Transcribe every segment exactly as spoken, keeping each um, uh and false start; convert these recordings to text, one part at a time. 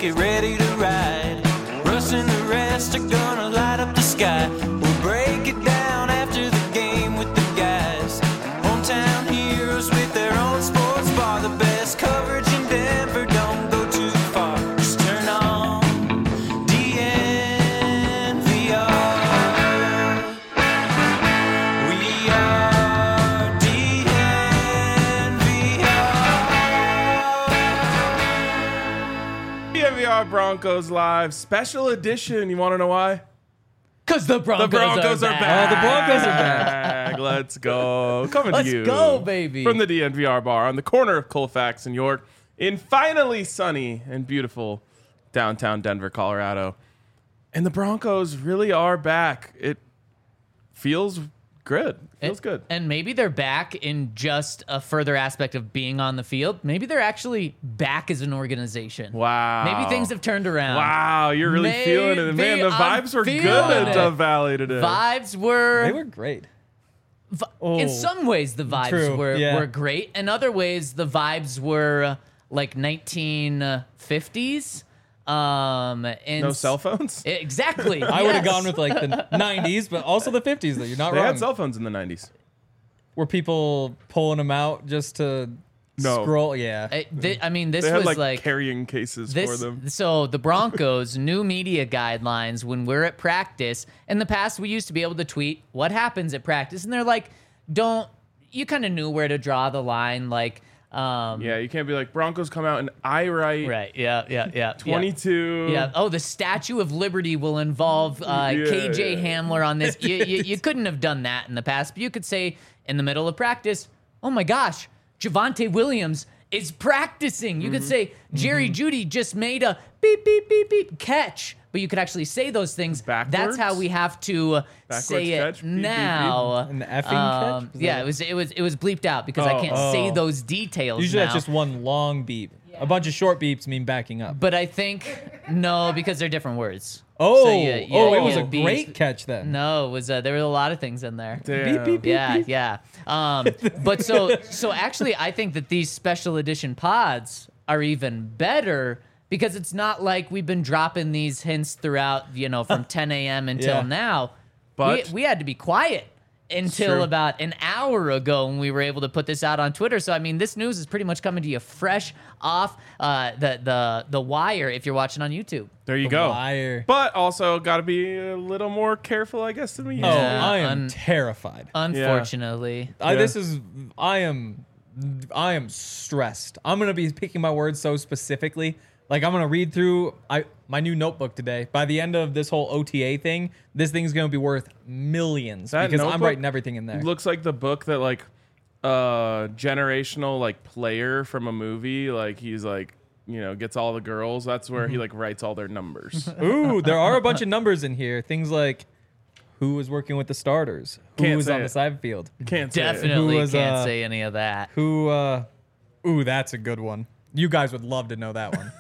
get ready to ride. Russ and the rest are gonna light up the sky. We'll break it down after the game with the guys. Hometown heroes with their own sports bar. The best coverage in Denver, don't go too far. Just turn on D N V R. We are D N V R. D N V R Broncos Live special edition. You want to know why? Because the Broncos, The Broncos are, are back. back. Oh, the Broncos are back. Let's go. Coming Let's to you. go, baby. From the D N V R bar on the corner of Colfax and York in finally sunny and beautiful downtown Denver, Colorado. And the Broncos really are back. It feels good. Feels And- good. And maybe they're back in just a further aspect of being on the field. Maybe they're actually back as an organization. Wow. Maybe things have turned around. Wow, you're really Maybe feeling it. Man, the I'm vibes were good feeling at it. Dove Valley today. Vibes were, They were great. vi- Oh, in some ways the vibes true, were, yeah. were great. In other ways the vibes were uh, like nineteen fifties. Um, and No s- cell phones? Exactly. I would have yes. gone with like the nineties, but also the fifties. Though you're not They wrong. had cell phones in the nineties. Were people pulling them out just to No. scroll? Yeah. I, thi- I mean, this They had was like, like carrying cases for This, them. so the Broncos new media guidelines when we're at practice. In the past, we used to be able to tweet what happens at practice, and they're like, "Don't." You kind of knew where to draw the line, like, um, Yeah, you can't be like Broncos come out and I write right, yeah, yeah, yeah, twenty-two. Yeah. Oh, the Statue of Liberty will involve uh, Yeah. K J Hamler on this. You, you, you couldn't have done that in the past, but you could say in the middle of practice, "Oh my gosh, Javonte Williams is practicing." You could Mm-hmm. say Jerry Jeudy just made a beep beep beep beep catch. But you could actually say those things. That's Backwards? how we have to Backwards say it catch? Beep, beep, beep. now. An effing Um, catch? Was yeah, that- it was it was it was bleeped out because I Oh. can't say Oh. those details Usually now. that's just one long beep. A bunch of short beeps mean backing up. But I think no, because they're different words. Oh, So you- you- oh, it was you a beep- great catch then. No, it was uh, there were a lot of things in there. Damn. Beep, beep, beep. Yeah, yeah. Um, but so so actually, I think that these special edition pods are even better because it's not like we've been dropping these hints throughout, you know, from ten a.m. until Yeah. now. But- we, we had to be quiet until true. about an hour ago when we were able to put this out on Twitter. So I mean, this news is pretty much coming to you fresh off uh, the the the wire if you're watching on YouTube. There you The go. Wire. But also got to be a little more careful, I guess, than we used Oh, to. Yeah, I am un- terrified. Unfortunately. I, Yeah. this is I am I am stressed. I'm gonna be picking my words so specifically. Like I'm gonna read through I my new notebook today. By the end of this whole O T A thing, this thing's gonna be worth millions That because I'm notebook writing everything in there. Looks like the book that like uh generational like player from a movie, like he's like, you know, gets all the girls. That's where he like writes all their numbers. Ooh, there are a bunch of numbers in here. Things like who was working with the starters, who Can't was say on it. the side field, Can't say it. Definitely Who was, can't uh, say any of that. who. uh Ooh, that's a good one. You guys would love to know that one.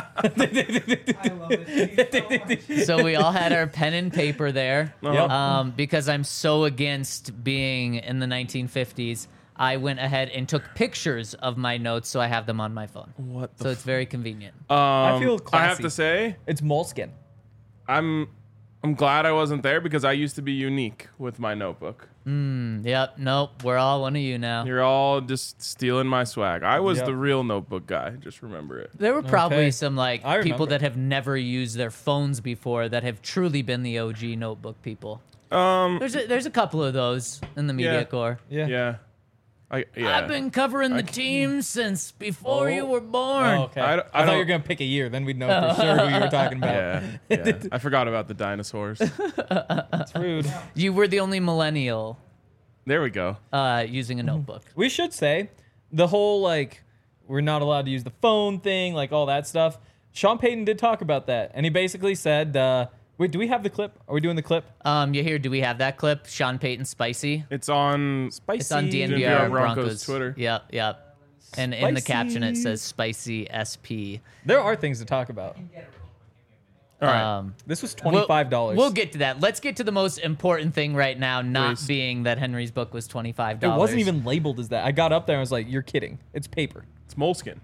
So we all had our pen and paper there. Uh-huh. Um, because I'm so against being in the nineteen fifties, I went ahead and took pictures of my notes so I have them on my phone. What the So it's very convenient. Um, I feel I have classy. to say, It's moleskin. I'm I'm glad I wasn't there because I used to be unique with my notebook. Yep. Nope. We're all one of you now. You're all just stealing my swag. I was Yep. the real notebook guy. Just remember it. There were probably Okay. some like I people remember. that have never used their phones before that have truly been the O G notebook people. Um, There's a, there's a couple of those in the media Yeah. corps. Yeah. yeah, I yeah. I've been covering the team since before Oh. you were born. Oh, okay. I I, don't- I thought you don't- were gonna pick a year, then we'd know for sure who you were talking about. Yeah, yeah. I forgot about the dinosaurs. It's rude. You were the only millennial There we go. uh, using a notebook. We should say the whole like we're not allowed to use the phone thing, like all that stuff. Sean Payton did talk about that, and he basically said, uh, "Wait, do we have the clip? Are we doing the clip?" Um, you hear? Do we have that clip? Sean Payton spicy. It's on. Spicy. It's on D N V D N V R R Broncos Broncos Twitter. Yep, yep. And in the caption it Spicy. says spicy S P. There are things to talk about. All right. Um, This was twenty-five dollars. We'll, we'll get to that. Let's get to the most important thing right now, not Please. being that Henry's book was twenty-five It dollars. wasn't even labeled as that. I got up there and I was like, "You're kidding! It's paper. it's moleskin.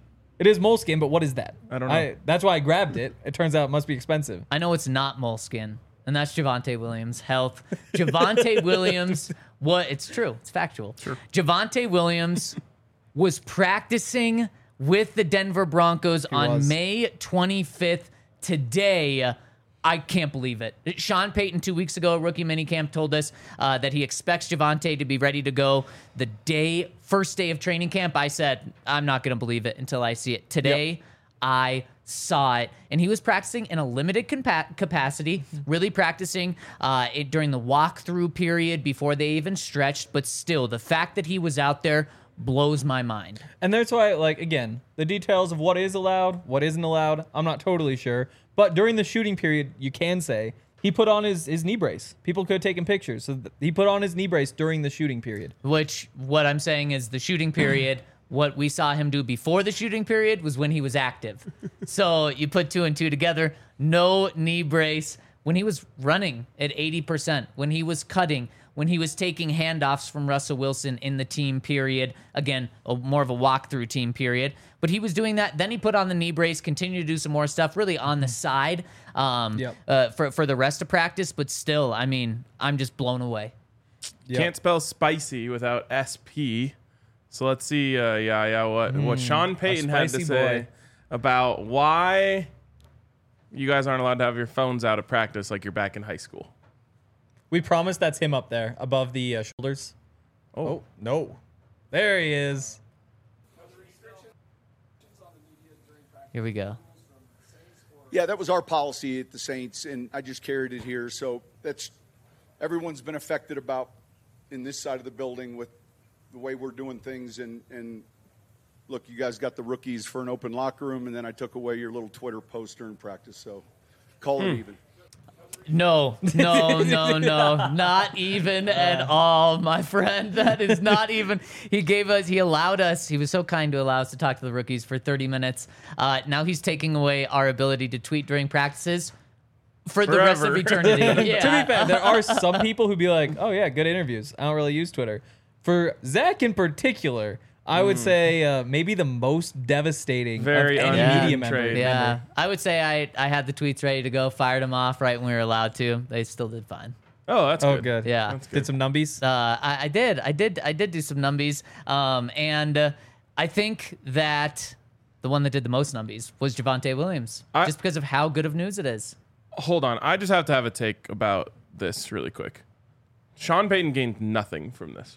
It is moleskin, but what is that? I don't know. that's why I grabbed it. It turns out it must be expensive. I know it's not moleskin, and that's Javonte Williams' health. Javonte Williams, what? It's true. It's factual. Sure. Javonte Williams was practicing with the Denver Broncos He on was. May twenty-fifth. Today, I can't believe it. Sean Payton, two weeks ago, rookie minicamp, told us uh, that he expects Javonte to be ready to go the day, first day of training camp. I said, I'm not going to believe it until I see it. Today, Yep. I saw it. And he was practicing in a limited compa- capacity, really practicing uh, it during the walkthrough period before they even stretched. But still, the fact that he was out there blows my mind. And that's why, like, again, the details of what is allowed, what isn't allowed, I'm not totally sure. But during the shooting period, you can say he put on his, his knee brace. People could have taken pictures. So th- he put on his knee brace during the shooting period. Which, what I'm saying is the shooting period, what we saw him do before the shooting period was when he was active. So you put two and two together, no knee brace. When he was running at eighty percent, when he was cutting, when he was taking handoffs from Russell Wilson in the team period, again, a, more of a walkthrough team period, but he was doing that. Then he put on the knee brace, continued to do some more stuff really on the side um, Yep. uh, for, for the rest of practice. But still, I mean, I'm just blown away. Yep. Can't spell spicy without S P. So let's see, uh, yeah, yeah, what what Sean Payton had to spicy say boy. about why you guys aren't allowed to have your phones out at practice like you're back in high school. We promise that's him up there above the uh, shoulders. Oh, Oh, no. There he is. Here we go. Yeah, that was our policy at the Saints, and I just carried it here. So that's everyone's been affected about in this side of the building with the way we're doing things. And, and look, you guys got the rookies for an open locker room, and then I took away your little Twitter post during practice. So call it even. No, no, no, no, not even at all, my friend. That is not even. He gave us, he allowed us, he was so kind to allow us to talk to the rookies for thirty minutes. Uh, now he's taking away our ability to tweet during practices for the rest of Forever. eternity. Yeah. To be fair, there are some people who be like, oh, yeah, good interviews. I don't really use Twitter. For Zach in particular, I would say uh, maybe the most devastating Very of any un- media member. trade. Yeah, I would say I, I had the tweets ready to go, fired them off right when we were allowed to. They still did fine. oh, that's Oh, good. good. Yeah. That's good. Did some numbies? Uh, I, I did. I did. I did do some numbies. Um, and uh, I think that the one that did the most numbies was Javonte Williams, I- just because of how good of news it is. Hold on, I just have to have a take about this really quick. Sean Payton gained nothing from this.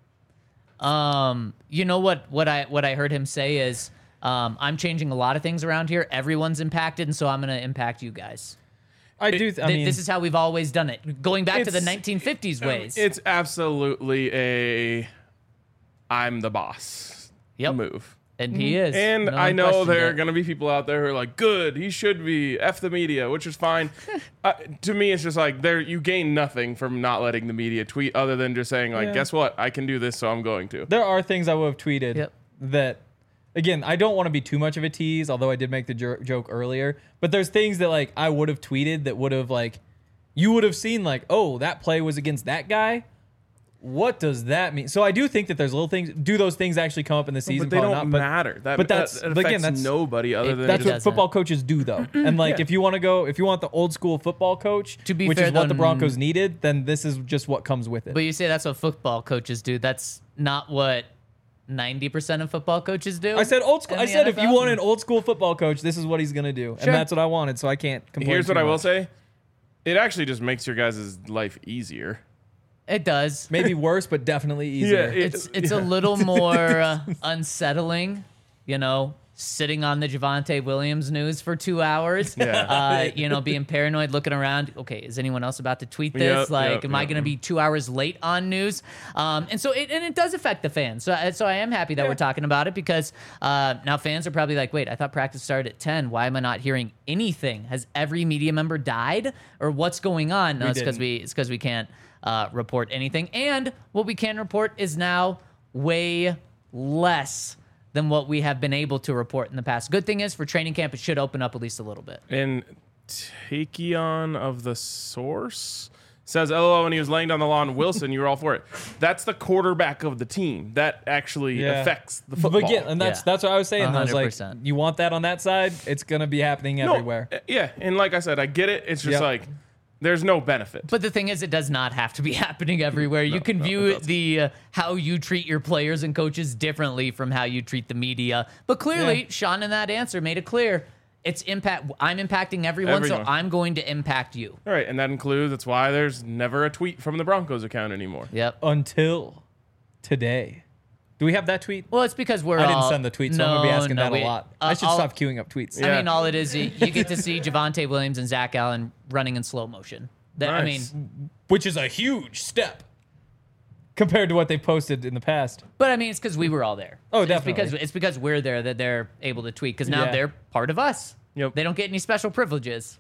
Um, you know what? What I what I heard him say is, um, I'm changing a lot of things around here. Everyone's impacted, and so I'm going to impact you guys. I do. Th- I Th- mean, this is how we've always done it, going back to the It's- nineteen fifties ways. It's absolutely a I'm the boss Yep. move. and he is. And No I one know questioned there are it. going to be people out there who are like, good, he should be, F the media, which is fine. uh, to me, it's just like, there you gain nothing from not letting the media tweet other than just saying, like, Yeah. guess what? I can do this, so I'm going to. there are things I would have tweeted Yep. that, again, I don't want to be too much of a tease, although I did make the jer- joke earlier. But there's things that like I would have tweeted that would have like you would have seen like, oh, that play was against that guy. What does that mean? So I do think that there's little things. Do those things actually come up in the season? But they Probably don't not, but- matter. That, but that's- that, that but again, affects that's- nobody other it- than That's It what doesn't. football coaches do, though. And like, if you want to go, if you want the old school football coach, To be which fair, is what though, the Broncos needed, then this is just what comes with it. But you say that's what football coaches do. That's not what ninety percent of football coaches do. I said old school. in I the said if you N F L. want an old school football coach, this is what he's gonna do, Sure. and that's what I wanted. So I can't complain. Here's what too I will much. say. It actually just makes your guys' life easier. It does. Maybe worse, but definitely easier. it- It's it's a little more uh, unsettling, you know, sitting on the Javonte Williams news for two hours. Yeah. Uh, you know, being paranoid, looking around. Okay, is anyone else about to tweet this? Yep, like, yep, am I yep. going to be two hours late on news? Um, and so it and it does affect the fans. So so I am happy that we're talking about it because uh, now fans are probably like, wait, I thought practice started at ten. Why am I not hearing anything? Has every media member died, or what's going on? No, We it's because didn't. we it's because we can't uh, report anything. And what we can report is now way less than what we have been able to report in the past. Good thing is for training camp, it should open up at least a little bit. And Takeon of the Source says L O L when he was laying down the law on Wilson, you were all for it. That's the quarterback of the team. That actually Yeah. affects the football. But again, and that's Yeah. that's what I was saying. I was one hundred like, percent. you want that on that side? It's gonna be happening No, everywhere. uh, yeah, and like I said, I get it. It's just Yep. like there's no benefit. But the thing is, it does not have to be happening everywhere. You can no, view it it the uh, how you treat your players and coaches differently from how you treat the media. But clearly, Yeah. Sean in that answer made it clear. It's impact. I'm impacting everyone, Everyone. so I'm going to impact you. All right, and that includes that's why there's never a tweet from the Broncos account anymore. Yep. Until today. Do we have that tweet? Well, it's because we're I didn't all- send the tweet, so no, I'm gonna be asking no, that we- a lot. uh, I should I'll- stop queuing up tweets. Yeah. I mean, all it is, you you get to see Javonte Williams and Zach Allen running in slow motion. That, I mean, Nice. Which is a huge step compared to what they posted in the past. but I mean, it's because we were all there. Oh, It's definitely. because it's because we're there that they're able to tweet. Because now Yeah. they're part of us. Yep. They don't get any special privileges.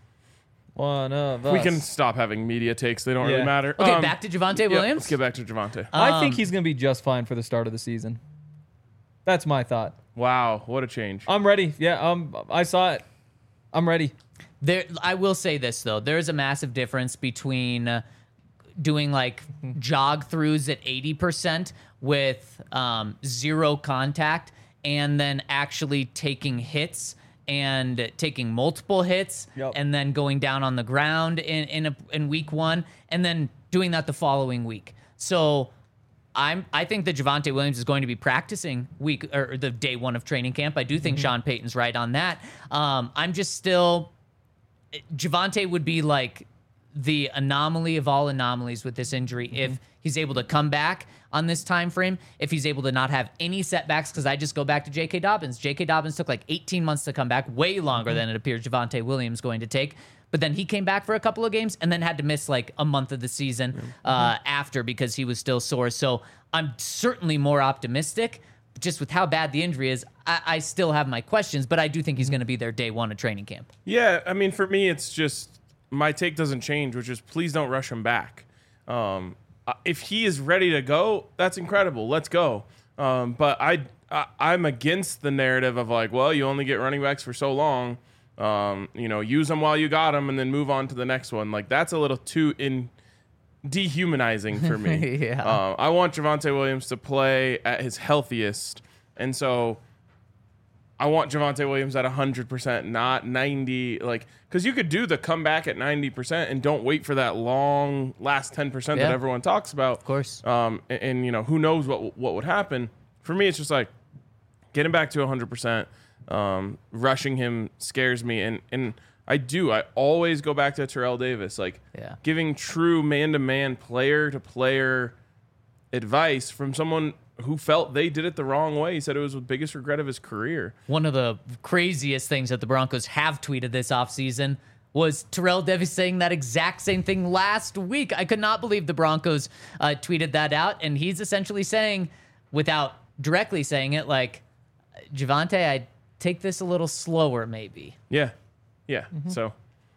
One of us. We can stop having media takes. They don't Yeah. really matter. Okay, Um, back to Javonte yeah, Williams. let's get back to Javonte. I think Um, he's gonna be just fine for the start of the season. That's my thought. wow, what a change. I'm ready. Yeah, um, I saw it. I'm ready. There, I will say this though: there is a massive difference between uh, doing like jog throughs at eighty percent with um, zero contact, and then actually taking hits and taking multiple hits, Yep. and then going down on the ground in in, a, in week one, and then doing that the following week. So. I'm. I think that Javonte Williams is going to be practicing week or the day one of training camp. I do think Sean Payton's right on that. Um, I'm just still. Javonte would be like the anomaly of all anomalies with this injury if he's able to come back on this time frame. If he's able to not have any setbacks, because I just go back to J K. Dobbins. J K. Dobbins took like eighteen months to come back, way longer than it appears Javonte Williams going to take. But then he came back for a couple of games and then had to miss like a month of the season uh, after because he was still sore. So I'm certainly more optimistic. Just with how bad the injury is, I, I still have my questions, but I do think he's going to be there day one of training camp. Yeah, I mean, for me, it's just my take doesn't change, which is please don't rush him back. Um, uh, if he is ready to go, that's incredible. Let's go. Um, but I, I, I'm against the narrative of like, well, you only get running backs for so long. Um, you know, use them while you got them, and then move on to the next one. Like that's a little too in dehumanizing for me. Yeah. Uh, I want Javonte Williams to play at his healthiest, and so I want Javonte Williams at one hundred percent, not ninety. Like, because you could do the comeback at ninety percent and don't wait for that long last ten percent Yeah. that everyone talks about. Of course. Um, and, and, you know, who knows what what would happen. For me, it's just like getting back to one hundred percent. Um, rushing him scares me, and and I do. I always go back to Terrell Davis, like Yeah. giving true man-to-man, player-to-player advice from someone who felt they did it the wrong way. He said it was the biggest regret of his career. One of the craziest things that the Broncos have tweeted this offseason was Terrell Davis saying that exact same thing last week. I could not believe the Broncos uh, tweeted that out, and he's essentially saying, without directly saying it, like, Javonte, I'd take this a little slower, maybe. Yeah, yeah. So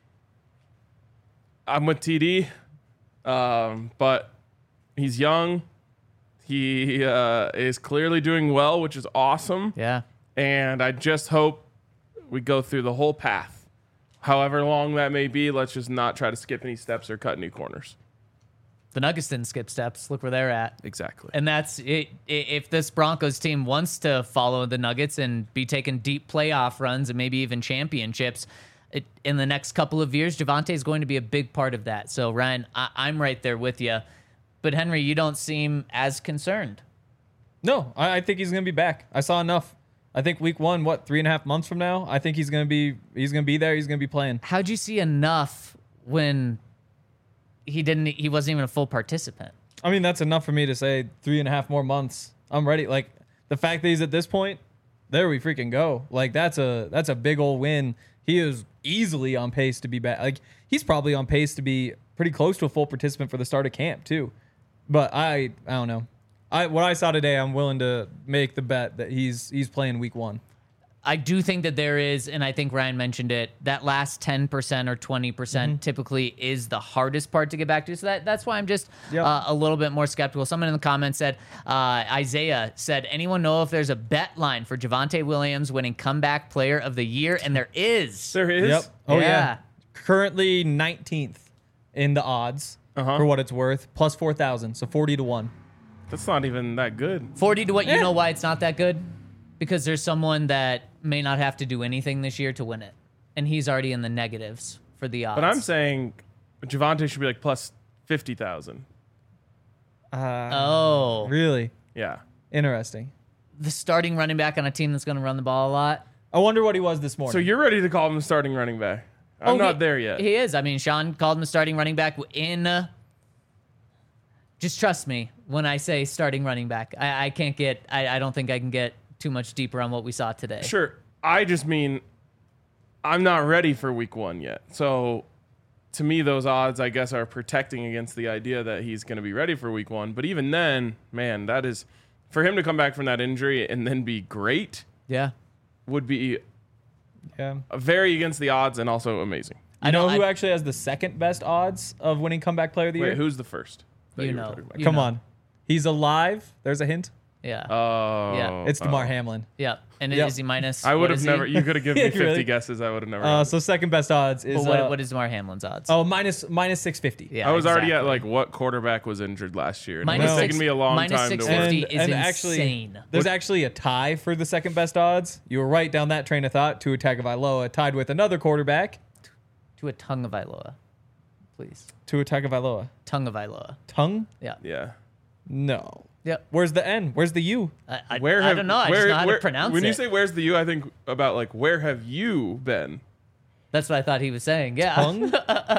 I'm with T D, um, but he's young. He uh, is clearly doing well, which is awesome. Yeah. And I just hope we go through the whole path. However long that may be, let's just not try to skip any steps or cut any corners. The Nuggets didn't skip steps. Look where they're at. Exactly. And that's it. If this Broncos team wants to follow the Nuggets and be taking deep playoff runs and maybe even championships it, in the next couple of years, Javonte is going to be a big part of that. So, Ryan, I, I'm right there with you. But, Henry, you don't seem as concerned. No, I, I think he's gonna be back. I saw enough. I think week one, what, three and a half months from now, I think he's gonna be he's gonna be there. He's gonna be playing. How'd you see enough when he didn't? He wasn't even a full participant. I mean, that's enough for me to say three and a half more months. I'm ready. Like the fact that he's at this point, there we freaking go. Like that's a that's a big old win. He is easily on pace to be back. Like he's probably on pace to be pretty close to a full participant for the start of camp too. But I I don't know. I what I saw today, I'm willing to make the bet that he's he's playing week one. I do think that there is, and I think Ryan mentioned it, that last ten percent or twenty percent Mm-hmm. typically is the hardest part to get back to. So that, that's why I'm just Yep. uh, a little bit more skeptical. Someone in the comments said, uh, Isaiah said, anyone know if there's a bet line for Javonte Williams winning comeback player of the year? And there is. There is. Yep. Oh yeah. Yeah. Currently nineteenth in the odds. Uh-huh. for what it's worth, plus four thousand, so forty to one. That's not even that good. forty to what? Eh. You know why it's not that good? Because there's someone that may not have to do anything this year to win it. And he's already in the negatives for the odds. But I'm saying Javonte should be like plus fifty thousand. Uh, Oh. Really Yeah. interesting. The starting running back on a team that's going to run the ball a lot. I wonder what he was this morning. So you're ready to call him the starting running back? I'm Oh, not he- there yet. He is. I mean, Sean called him a starting running back in. Uh, just trust me when I say starting running back. I, I can't get. I, I don't think I can get too much deeper on what we saw today. Sure. I just mean I'm not ready for week one yet. So to me, those odds, I guess, are protecting against the idea that he's going to be ready for week one. But even then, man, that is for him to come back from that injury and then be great Yeah. would be yeah. very against the odds and also amazing. You I know don't- who I- actually has the second best odds of winning comeback player of the Wait, year? who's the first? that You were know. talking about? You Come know. on. He's alive. There's a hint. Yeah. Oh, Yeah. It's DeMar oh. Hamlin. yeah. And Yep. is he minus? I what would have is he? never. You could have given me fifty Really? guesses. I would have never. Uh, gotten. so second best odds is But what, uh, what is Damar Hamlin's odds? oh minus minus six fifty. yeah. I was already at exactly. like what quarterback was injured last year. And Minus it was six- taking me a long minus time six to work. fifty. And, is and actually, insane. there's actually a tie for the second best odds. You were right down that train of thought. Tua Tagovailoa tied with another quarterback. To a tongue of Iloa, please. Tua Tagovailoa. Tongue of Iloa. Tongue? Yeah. Yeah. No. Yep. Where's the N? Where's the U? I, I, Where I have, don't know. I where, just know how where- to pronounce when it. you say "Where's the you," I think about like where have you been? That's what I thought he was saying. Yeah. Tongue?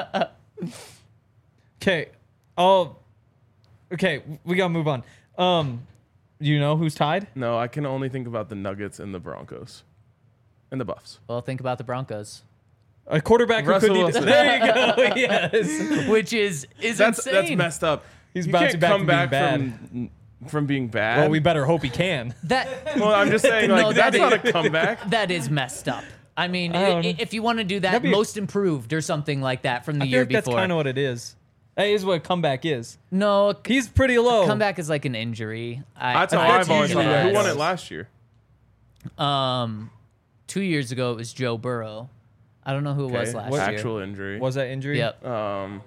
Okay. Oh. Okay, we gotta move on. Um, you know who's tied? No, I can only think about the Nuggets and the Broncos, and the Buffs. Well, think about the Broncos, A quarterback who Russell couldn't Wilson. even. There you go. Yes. which is is That's insane. that's messed up. He's you bouncing can't back come from being back bad. from from being bad. Well, we better hope he can. That Well, I'm just saying, like No, that's that not a comeback. that is messed up. I mean, I don't i- know. if you want to do that, That'd be a- most improved or something like that from the I feel year like that's before. kind of what it is. That is what a comeback is. no, c- He's pretty low. comeback is like an injury. I, That's how I- I've always usually thought. Of it. what Who it won it is. last year? Um, two years ago it was Joe Burrow. I don't know who it was Okay, last what- year. Actual injury. Was that injury? Yep. Um,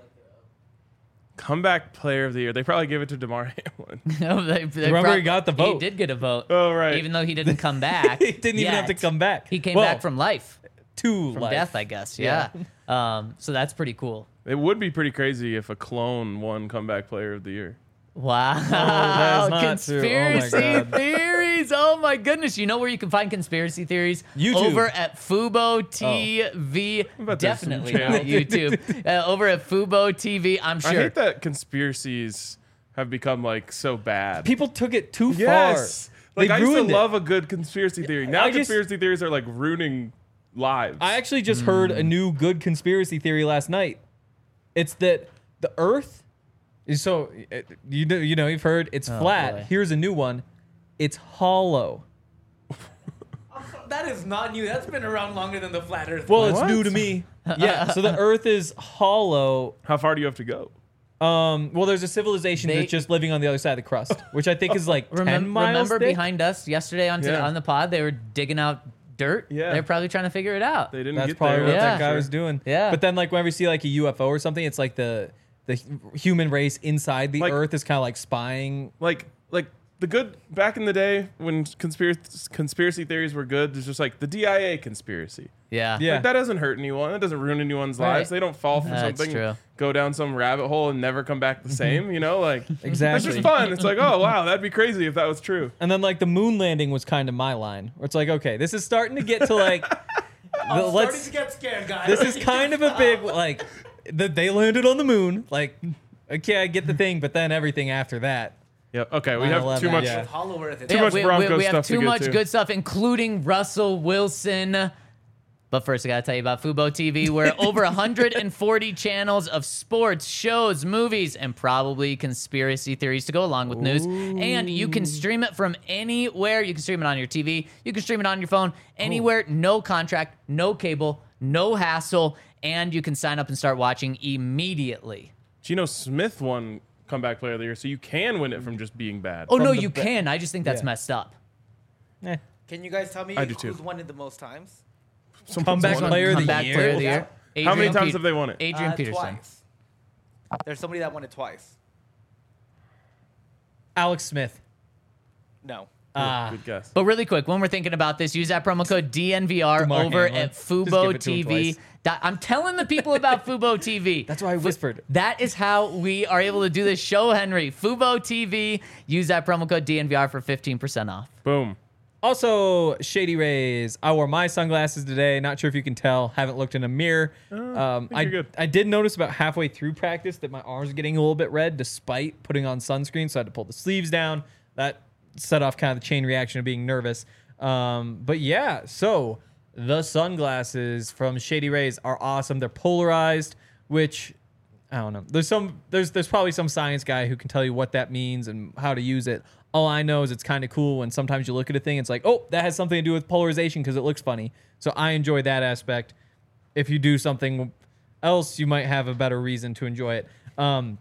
comeback player of the year. They probably gave it to DeMar Hamlin. No, they, they Remember prob- he got the He vote. did get a vote. Oh, right. Even though he didn't come back. He didn't even have to yet. come back. He came Well, back from life, to from life. death, I guess. Yeah. um. So that's pretty cool. It would be pretty crazy if a clone won comeback player of the year. Wow. that is not true. Oh my Conspiracy God. theories. Oh my goodness. You know where you can find conspiracy theories? YouTube. Over at Fubo T V. bet there's some Definitely channel. not YouTube. uh, over at Fubo T V, I'm I sure. hate that conspiracies have become like so bad. People took it too yes. far. Like They I used to ruined it. love a good conspiracy theory. Now I just- conspiracy theories are like ruining lives. I actually just heard Hmm. a new good conspiracy theory last night. It's that the Earth is so uh, you know you know you've heard it's flat. Oh, boy. Here's a new one. It's hollow. That is not new. That's been around longer than the flat Earth. Well, it's What? new to me. Yeah. So the Earth is hollow. How far do you have to go? Um. Well, there's a civilization They- that's just living on the other side of the crust, which I think is like ten Remem- miles remember thick. behind us yesterday on, to- Yeah. on the pod, they were digging out dirt? Yeah. They're probably trying to figure it out. They didn't That's get probably there. what Yeah. that guy Sure. was doing. Yeah. But then, like, whenever you see like a U F O or something, it's like the the hu- human race inside the Like- Earth is kind of like spying. Like like the good back in the day when conspiracy conspiracy theories were good. There's just like the D I A conspiracy. Yeah. Yeah. Like that doesn't hurt anyone. That doesn't ruin anyone's Right. lives. They don't fall for That's something, true. go down some rabbit hole, and never come back the same. You know, like that's Exactly. just fun. It's like, oh wow, that'd be crazy if that was true. And then like the moon landing was kind of my line, where it's like, okay, this is starting to get to like, the, I'm let's. starting to get scared, guys. This is kind of a big like, that they landed on the moon. Like, okay, I get the thing, but then everything after that. Yep. Okay, we have nine eleven, too much. yeah. Hollow Earth. Too much we, Broncos we, we have stuff to too get much to. good stuff, including Russell Wilson. But first, I got to tell you about Fubo T V, where over one hundred forty channels of sports, shows, movies, and probably conspiracy theories to go along with news. And you can stream it from anywhere. You can stream it on your T V. You can stream it on your phone. Anywhere. No contract, no cable, no hassle. And you can sign up and start watching immediately. Geno Smith won comeback player of the year, so you can win it from just being bad. Oh, no, the you ba- can. I just think that's Yeah. messed up. Eh. Can you guys tell me I do too. who's won it the most times? Someone's Comeback won it. player of the Comeback year? player of the year. How many Adrian times Pe- have they won it? Adrian Uh, Peterson. Twice. There's somebody that won it twice. Alex Smith. No. Ah, Good guess. But really quick, when we're thinking about this, use that promo code D N V R DeMar over Hamlin. at Just Fubo give it to him T V. twice. Dot- I'm telling the people about Fubo T V. that's why I whispered. That is how we are able to do this show, Henry. Fubo T V. Use that promo code D N V R for fifteen percent off. Boom. Also, Shady Rays. I wore my sunglasses today. Not sure if you can tell. Haven't looked in a mirror. um, think I, you're good. I did notice about halfway through practice that my arms are getting a little bit red despite putting on sunscreen. So I had to pull the sleeves down. That set off kind of the chain reaction of being nervous. Um, but yeah, so the sunglasses from Shady Rays are awesome. They're polarized, which I don't know. There's some there's there's probably some science guy who can tell you what that means and how to use it. All I know is it's kind of cool when sometimes you look at a thing, it's like, oh, that has something to do with polarization because it looks funny. So I enjoy that aspect. If you do something else, you might have a better reason to enjoy it. Um,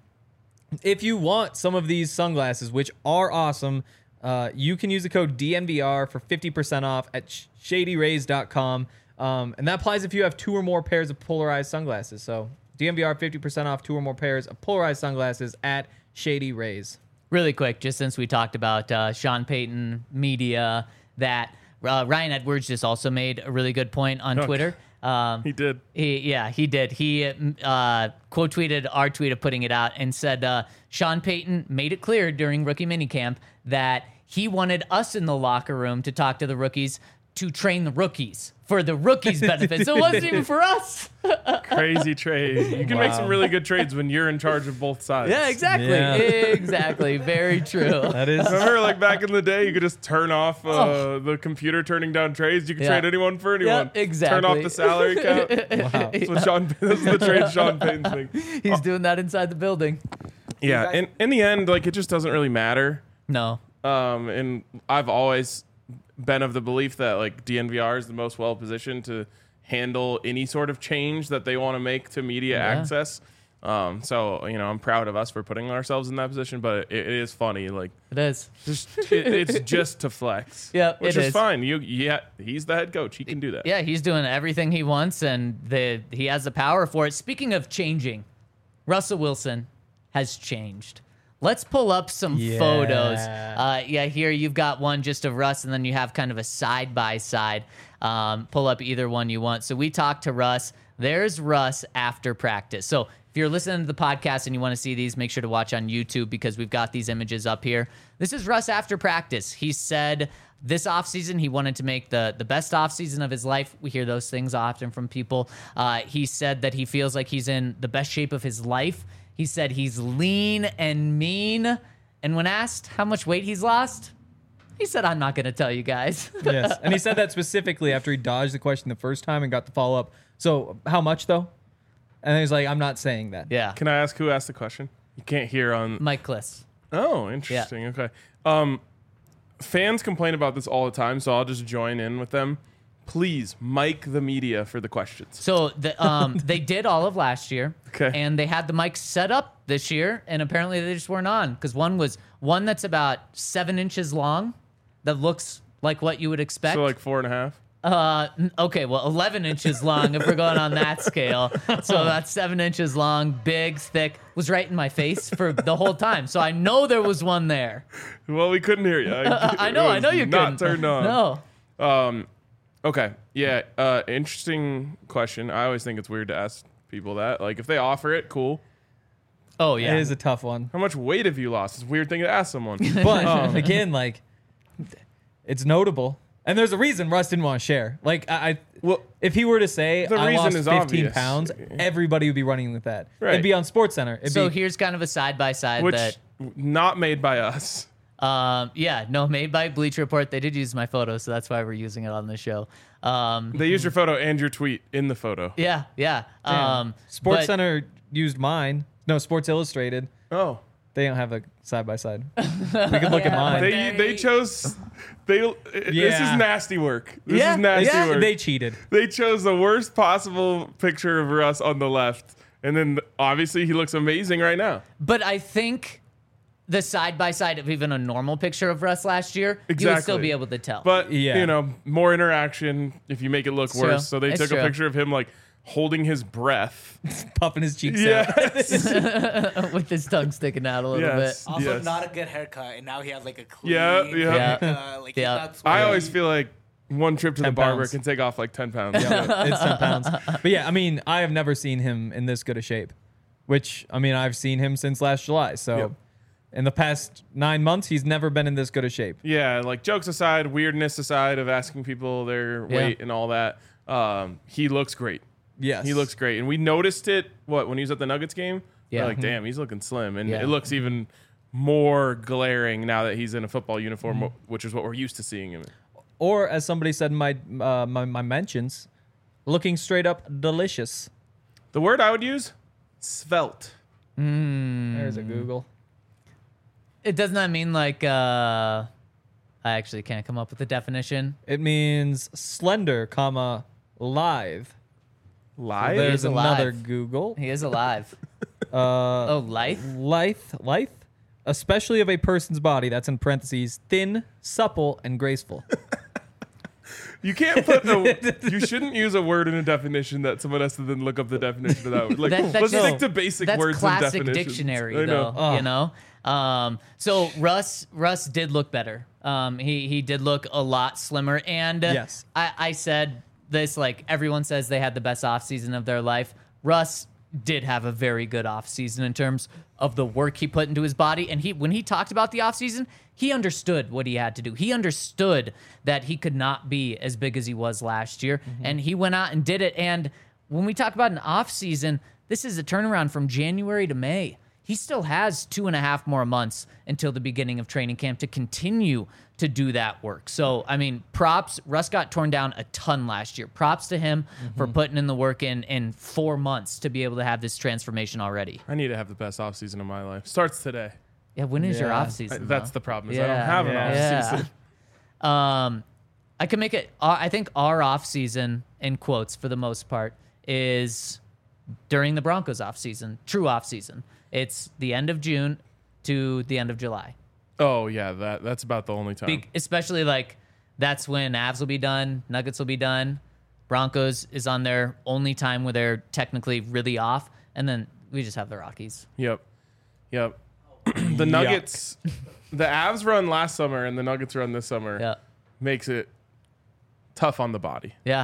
if you want some of these sunglasses, which are awesome, uh, you can use the code D N V R for fifty percent off at shady rays dot com. Um, and that applies if you have two or more pairs of polarized sunglasses. So D N V R fifty percent off two or more pairs of polarized sunglasses at Shady Rays. Really quick, just since we talked about uh, Sean Payton media, that uh, Ryan Edwards just also made a really good point on Okay. Twitter. Um, He did. He, yeah, he did. He uh, quote tweeted our tweet of putting it out and said uh, Sean Payton made it clear during rookie minicamp that he wanted us in the locker room to talk to the rookies to train the rookies for the rookies' benefit. So it wasn't even for us. Crazy trade. You can make some Wow. really good trades when you're in charge of both sides. Yeah, exactly. Yeah. Exactly. Very true. That is Remember, like back in the day, you could just turn off uh, the computer turning down trades. You could Oh. Yeah. trade anyone for anyone. Yeah, exactly. Turn off the salary cap. wow. That's what Sean. That's the trade Sean Payton's thing. He's doing that inside the building. Yeah. In in the end, like it just doesn't really matter. No. Um, and I've always been of the belief that like D N V R is the most well positioned to handle any sort of change that they want to make to media Yeah. access. Um, so you know, I'm proud of us for putting ourselves in that position. But it, it is funny, like It is. just it, it's just to flex. Yeah, which it is, is. fine. You yeah, he's the head coach. He can do that. Yeah, he's doing everything he wants, and the he has the power for it. Speaking of changing, Russell Wilson has changed. Let's pull up some Yeah. photos. Uh, yeah, here you've got one just of Russ, and then you have kind of a side by side. Um, pull up either one you want. So we talked to Russ. There's Russ after practice. So if you're listening to the podcast and you want to see these, make sure to watch on YouTube because we've got these images up here. This is Russ after practice. He said this offseason he wanted to make the, the best offseason of his life. We hear those things often from people. Uh, he said that he feels like he's in the best shape of his life. He said he's lean and mean. And when asked how much weight he's lost, he said, I'm not going to tell you guys. Yes. And he said that specifically after he dodged the question the first time and got the follow up. So, how much though? And he's like, I'm not saying that. Yeah. Can I ask who asked the question? You can't hear on. Mike Kliss. Oh, interesting. Okay. Um, fans complain about this all the time, so I'll just join in with them. Please, mic the media for the questions. So the, um, they did all of last year. Okay. And they had the mics set up this year, and apparently they just weren't on because one was one that's about seven inches long that looks like what you would expect. So like four and a half. Uh, n- okay, well, eleven inches long if we're going on that scale. So about seven inches long, big, thick, was right in my face for the whole time. So I know there was one there. Well, we couldn't hear you. I know, It I know was you not couldn't. turned on. No. Um, okay. Yeah. Uh, interesting question. I always think it's weird to ask people that. Like, if they offer it, cool. Oh, yeah. It is a tough one. How much weight have you lost? It's a weird thing to ask someone. But Um, again, like, it's notable. And there's a reason Russ didn't want to share. Like, I, I Well, if he were to say, the I reason lost is fifteen obvious. pounds, everybody would be running with that. Right. It'd be on SportsCenter. It'd So be, here's kind of a side by side which that. not made by us. Um, yeah, no, made by Bleacher Report. They did use my photo, so that's why we're using it on the show. Um, They used your photo and your tweet in the photo. yeah, yeah. Um, Sports but- Center used mine. No, Sports Illustrated. Oh. They don't have a side by side. We could look at mine. They Very- they chose they this Yeah. is nasty work. This Yeah, is nasty yeah, work. They cheated. They chose the worst possible picture of Russ on the left. And then obviously he looks amazing right now. But I think the side by side of even a normal picture of Russ last year, you would still Exactly. be able to tell. But Yeah. you know, more interaction if you make it look It's worse. true. So they It's took true. a picture of him like holding his breath. Puffing his cheeks Yeah. out. with his tongue sticking out a little Yes. bit. Also, Yes. not a good haircut, and now he has like a clean. Yeah, yeah. Uh, like he's Yeah. not I sweaty. always feel like one trip to the ten barber pounds. can take off like ten pounds. Yeah, it's ten pounds. But yeah, I mean, I have never seen him in this good a shape, which, I mean, I've seen him since last July. So Yep. in the past nine months, he's never been in this good a shape. Yeah, like jokes aside, weirdness aside of asking people their Yeah. weight and all that, um, he looks great. Yes. He looks great. And we noticed it, what, when he was at the Nuggets game? Yeah. We're like, damn, he's looking slim. And Yeah. it looks even more glaring now that he's in a football uniform, which is what we're used to seeing him in. Or, as somebody said in my, uh, my, my mentions, looking straight up delicious. The word I would use, svelte. There's a Google. It does not mean like uh I actually can't come up with a definition. It means slender, comma, live. Live? There's is alive. another Google. He is alive. Uh, Oh, life? lithe, lithe, especially of a person's body. That's in parentheses, thin, supple, and graceful. You can't put a, you shouldn't use a word in a definition that someone has to then look up the definition of that word. Like, That- that's let's just- stick to basic That's words classic and definitions. dictionary, I know. though. You know. Um, so Russ, Russ did look better. Um, he he did look a lot slimmer, and uh, Yes. I, I said this like everyone says they had the best offseason of their life. Russ did have a very good offseason in terms of the work he put into his body, and he when he talked about the offseason, he understood what he had to do. He understood that he could not be as big as he was last year, and he went out and did it. And when we talk about an offseason, this is a turnaround from January to May. He still has two and a half more months until the beginning of training camp to continue to do that work. So, I mean, props. Russ got torn down a ton last year. Props to him for putting in the work in in four months to be able to have this transformation already. I need to have the best offseason of my life. Starts today. Yeah, when is your Yeah. off season? I- that's the problem. Is I don't Yeah, have an yeah. off season. Um, I can make it. Uh, I think our off season, in quotes, for the most part, is during the Broncos off season, true off season. It's the end of June to the end of July. Oh yeah, that that's about the only time. Be- especially like that's when Avs will be done, Nuggets will be done, Broncos is on their only time where they're technically really off, and then we just have the Rockies. Yep, yep. The Nuggets, the Avs run last summer and the Nuggets run this summer Yeah, makes it tough on the body. yeah,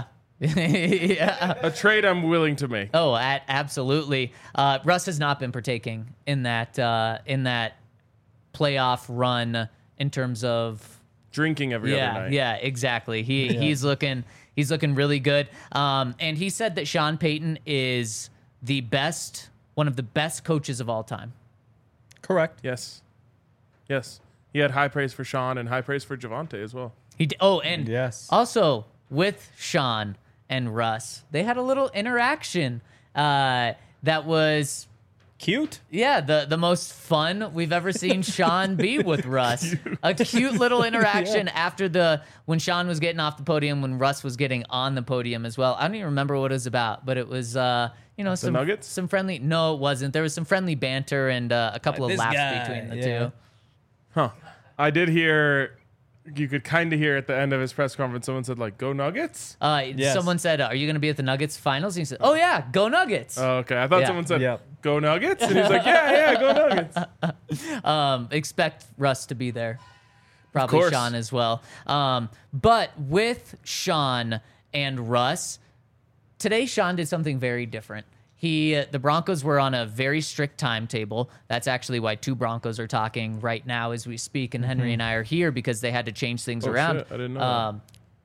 yeah. A trade I'm willing to make. Oh, at, absolutely. Uh, Russ has not been partaking in that uh, in that playoff run in terms of Drinking every yeah, other night. yeah, exactly. He he's looking he's looking really good. Um, and he said that Sean Payton is the best, one of the best coaches of all time. Correct. Yes. Yes. He had high praise for Sean and high praise for Javante as well. He d- oh, and Yes. also with Sean and Russ, they had a little interaction uh, that was Cute. yeah the the most fun we've ever seen Sean be with Russ. A cute little interaction after the when Sean was getting off the podium, when Russ was getting on the podium as well. I don't even remember what it was about, but it was uh, you know some Nuggets? some friendly. No, it wasn't. There was some friendly banter and uh, a couple of This laughs guy, between the yeah. two. Huh. I did hear, you could kind of hear at the end of his press conference, someone said, like, go Nuggets? Uh, Yes. Someone said, "Are you going to be at the Nuggets finals?" And he said, "Oh yeah, go Nuggets." Oh, okay. I thought Yeah. someone said, Yep. go Nuggets? And he's like, yeah, yeah, go Nuggets. Um, expect Russ to be there. Probably course. Sean as well. Um, but with Sean and Russ, today Sean did something very different. He, uh, the Broncos were on a very strict timetable. That's actually why two Broncos are talking right now as we speak, and Henry and I are here because they had to change things Oh, around. shit. I didn't know that. Um,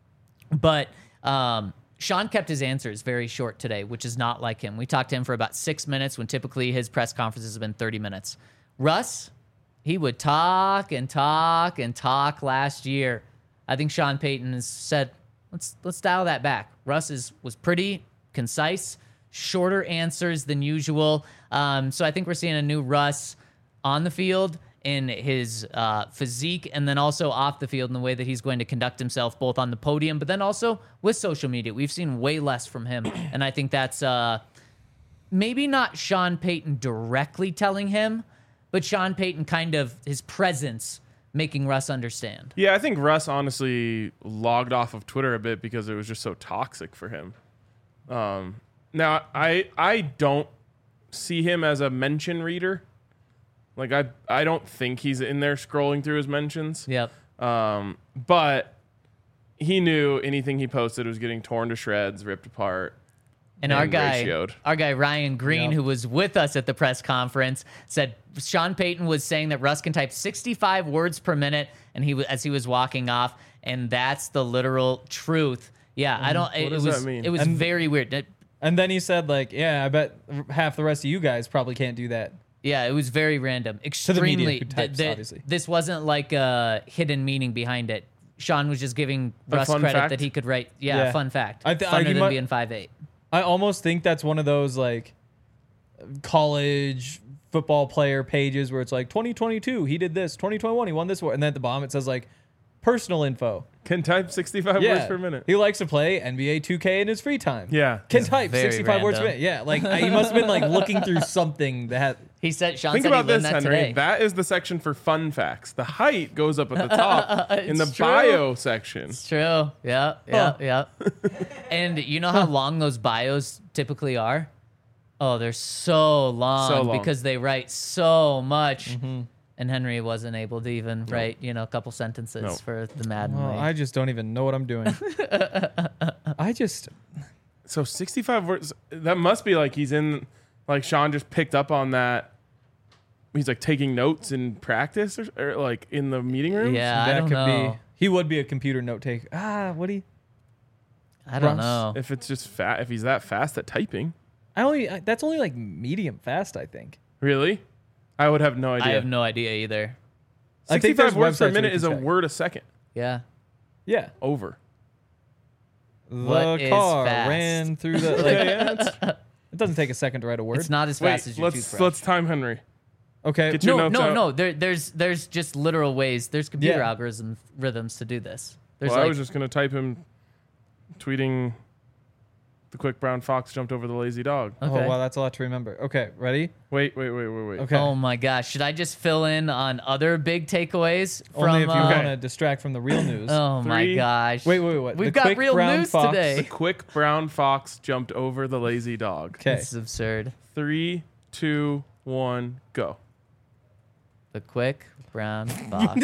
but um, Sean kept his answers very short today, which is not like him. We talked to him for about six minutes when typically his press conferences have been thirty minutes. Russ, he would talk and talk and talk last year. I think Sean Payton has said, let's let's dial that back. Russ is, was pretty concise, shorter answers than usual. Um, so I think we're seeing a new Russ on the field in his uh, physique, and then also off the field in the way that he's going to conduct himself, both on the podium, but then also with social media. We've seen way less from him, and I think that's uh, maybe not Sean Payton directly telling him, but Sean Payton kind of his presence making Russ understand. Yeah, I think Russ honestly logged off of Twitter a bit because it was just so toxic for him. Um, Now, I I don't see him as a mention reader. Like, I I don't think he's in there scrolling through his mentions. Yep. Um, but he knew anything he posted was getting torn to shreds, ripped apart. And our and guy, ratioed. our guy Ryan Green, Yep. who was with us at the press conference, said Sean Payton was saying that Russ can type sixty-five words per minute, and he wa- as he was walking off, and that's the literal truth. Yeah, I don't. It, does it was that mean? it was And- very weird. It- And then he said, like, yeah, I bet half the rest of you guys probably can't do that. yeah, it was very random. the Extremely. media who th- types, th- obviously. This wasn't like a hidden meaning behind it. Sean was just giving A Russ fun credit fact? that he could write. Yeah, Yeah. fun fact. I th- Funner I- you than might- being five eight. I almost think that's one of those, like, college football player pages where it's like, twenty twenty-two, he did this. twenty twenty-one, he won this award. And then at the bottom, it says, like, personal info. Can type sixty-five Yeah. words per minute. He likes to play N B A two K in his free time. Yeah. Can type very sixty-five words per random. minute. Yeah, like, I- he must have been, like, looking through something that had. He said Sean Think said about he learned this, that Henry. today. That is the section for fun facts. The height goes up at the top in the It's true. bio section. It's true. Yeah, yeah, yeah. And you know how long those bios typically are? Oh, they're so long, So long. because they write so much. And Henry wasn't able to even write, you know, a couple sentences No. for the Madden Well, League. I just don't even know what I'm doing. I just. So sixty-five words. That must be like he's in. Like Sean just picked up on that. He's like taking notes in practice or, or like in the meeting room. yeah, I that don't could know. be. He would be a computer note taker. Ah, would he? I don't Russ, know. If it's just fat, if he's that fast at typing, I only. I, that's only like medium fast, I think. really, I would have no idea. I have no idea either. I think sixty-five there's words websites per where minute you is can a check. word a second. Yeah. Yeah. Over. What the is car fast? ran through the. Like, Yeah, it's- it doesn't take a second to write a word. It's not as Wait, fast as your let's toothbrush. let's time Henry. Okay. Get your no, notes no, out. no. There, there's there's just literal ways. There's computer Yeah. algorithms rhythms to do this. There's Well, like I was just gonna type him tweeting. The quick brown fox jumped over the lazy dog. okay. Oh wow, that's a lot to remember. Okay, ready? Wait, wait, wait, wait, wait. Okay. Oh my gosh! Should I just fill in on other big takeaways from? Only if you uh, want to distract from the real news. Oh my Three- gosh! Wait, wait, wait. We've The got quick real brown news fox- today. The quick brown fox jumped over the lazy dog. Okay. This is absurd. Three, two, one, go. The quick brown fox.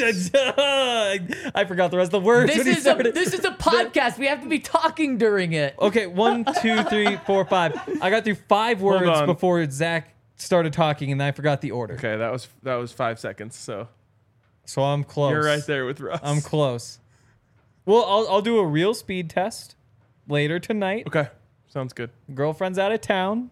I forgot the rest of the words. this when he is a started. this is a podcast. We have to be talking during it. Okay, one, two, three, four, five. I got through five Hold words on. before Zach started talking, and then I forgot the order. Okay, that was that was five seconds. So So I'm close. you're right there with Russ. I'm close. Well, I'll I'll do a real speed test later tonight. Okay, sounds good. Girlfriend's out of town,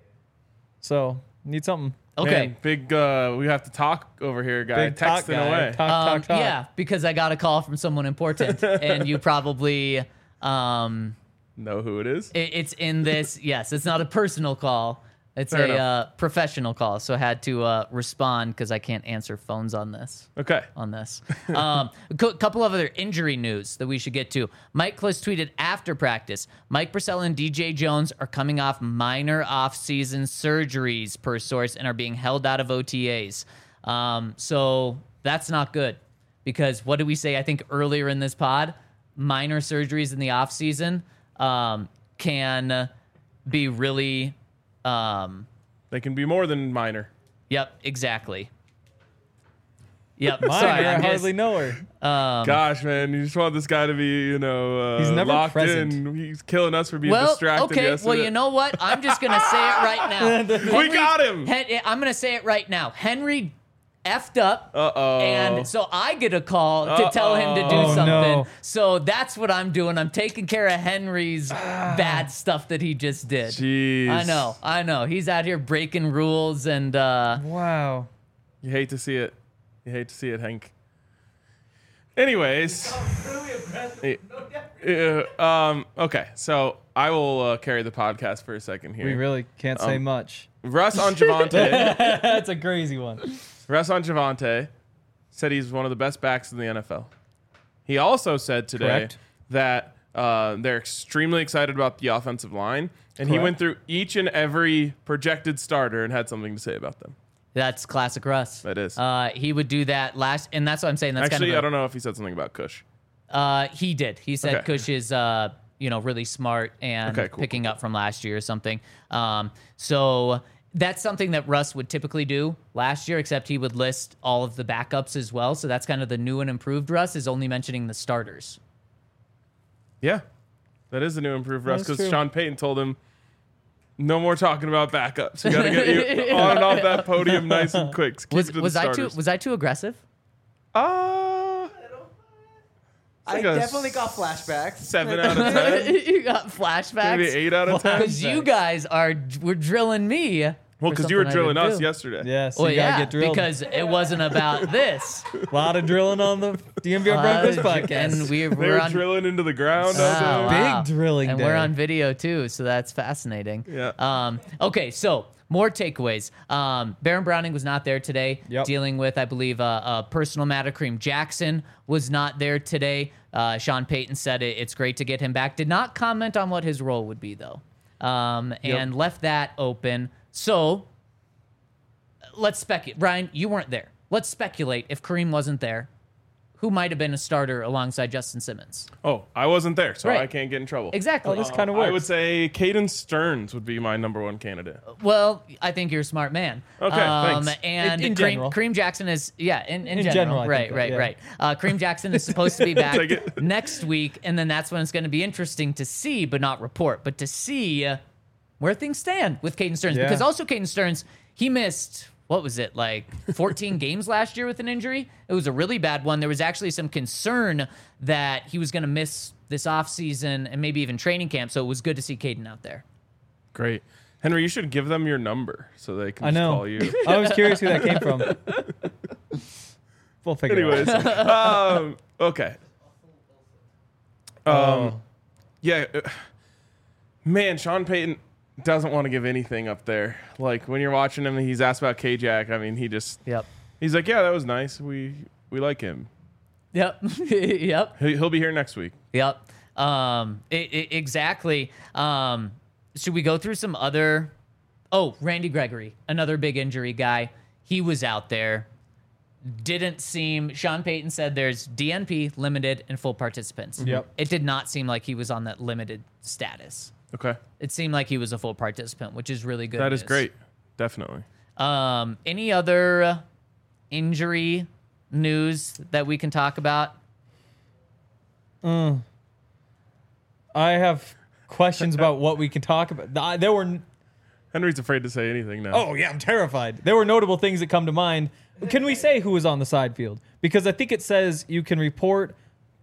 so need something. Okay. Man, big. Uh, we have to talk over here, guy. Big talk Texting guy. away. Talk, Um, talk, talk. yeah, because I got a call from someone important, and you probably um, Know who it is? it, it's in this. Yes, it's not a personal call. It's Fair a enough. uh, professional call, so I had to uh, respond because I can't answer phones on this. Okay. on this. Um, a cou- couple of other injury news that we should get to. Mike Klis tweeted after practice, Mike Purcell and D J Jones are coming off minor off-season surgeries per source and are being held out of O T As. Um, so that's not good because what did we say, I think, earlier in this pod? Minor surgeries in the off-season um, can be really... Um, They can be more than minor. yep, exactly. Yep, Mine, sorry. I I'm just- hardly know her. um, Gosh, man, you just want this guy to be, you know, uh, He's never locked present. in. He's killing us for being Well, distracted okay. yesterday. Well, you know what? I'm just gonna say it right now. We got him. Hen- I'm gonna say it right now. Henry effed up, Uh oh. and so I get a call to tell him to do Uh-oh. Oh, something. no. So that's what I'm doing. I'm taking care of Henry's bad stuff that he just did. Jeez. I know. I know. He's out here breaking rules, and uh, Wow. You hate to see it. You hate to see it, Hank. Anyways. Yeah, um, okay, so I will uh, carry the podcast for a second here. We really can't say Um, much. Russ on Javante. That's a crazy one. Russ on Javante said he's one of the best backs in the N F L. He also said today Correct. that uh, they're extremely excited about the offensive line, and he Correct. went through each and every projected starter and had something to say about them. that's classic Russ. That is. Uh, he would do that last, and that's what I'm saying. That's Actually, kind of a- I don't know if he said something about Kush. Uh, he did. He said Okay. Kush is, uh, you know, really smart and Okay, cool, picking up from last year or something. Um, so that's something that Russ would typically do last year, except he would list all of the backups as well. So that's kind of the new and improved Russ, is only mentioning the starters. Yeah, that is the new improved Russ That's because true. Sean Payton told him, no more talking about backups. You got to get you on and off that podium nice and quick. Keep Was it to the was I too starters. was I too aggressive? Uh, I like a definitely got flashbacks. seven out of ten. You got flashbacks. Maybe eight out of ten. Because you guys are were drilling me. Well, for because you were something I drilling didn't us do. yesterday. Yes, Well, you gotta yeah, get drilled. because it wasn't about this. a lot of drilling on the D M V R Broncos Uh, podcast. and we, They we're were on drilling into the ground. Wow, out there. wow. Big drilling and day. we're on video too, so that's fascinating. Yeah. Um, okay, so more takeaways. Um, Baron Browning was not there today, Yep. dealing with, I believe, a, a personal matter. Kareem Jackson was not there today. Uh, Sean Payton said it, it's great to get him back. Did not comment on what his role would be though, um, and left that open. So let's speculate. Brian, you weren't there. Let's speculate if Kareem wasn't there, who might have been a starter alongside Justin Simmons. Oh, I wasn't there, so Right. I can't get in trouble. Exactly. Oh, this kind of works. I would say Caden Stearns would be my number one candidate. Well, I think you're a smart man. Okay, thanks. And In- in Kareem, general. Kareem Jackson is, yeah, in, in, In general. general, I right, think, right, yeah. right. Uh, Kareem Jackson is supposed to be back Take it. next week, and then that's when it's going to be interesting to see, but not report, but to see uh, where things stand with Caden Stearns. Yeah. Because also Caden Stearns, he missed, what was it, like fourteen games last year with an injury? It was a really bad one. There was actually some concern that he was going to miss this offseason and maybe even training camp, so it was good to see Caden out there. Great. Henry, you should give them your number so they can I just know. call you. I was curious who that came from. We'll figure Anyways, it out. um, okay. Um, Oh. yeah, uh, man, Sean Payton doesn't want to give anything up there. Like when you're watching him, he's asked about K-Jack. I mean, he just Yep. he's like, yeah, that was nice. We we like him. Yep. Yep. He, he'll be here next week. Yep. Um, i i exactly. Um, should we go through some other? Oh, Randy Gregory, another big injury guy. He was out there. Didn't seem. Sean Payton said there's D N P, limited, and full participants. Yep. It did not seem like he was on that limited status. Okay, It seemed like he was a full participant, which is really good. that is news. great. Definitely. Um, any other uh, injury news that we can talk about? I have questions about what we can talk about. I- There were. Henry's afraid to say anything now. Oh yeah, I'm terrified. There were notable things that come to mind. Can we say who was on the side field? Because I think it says you can report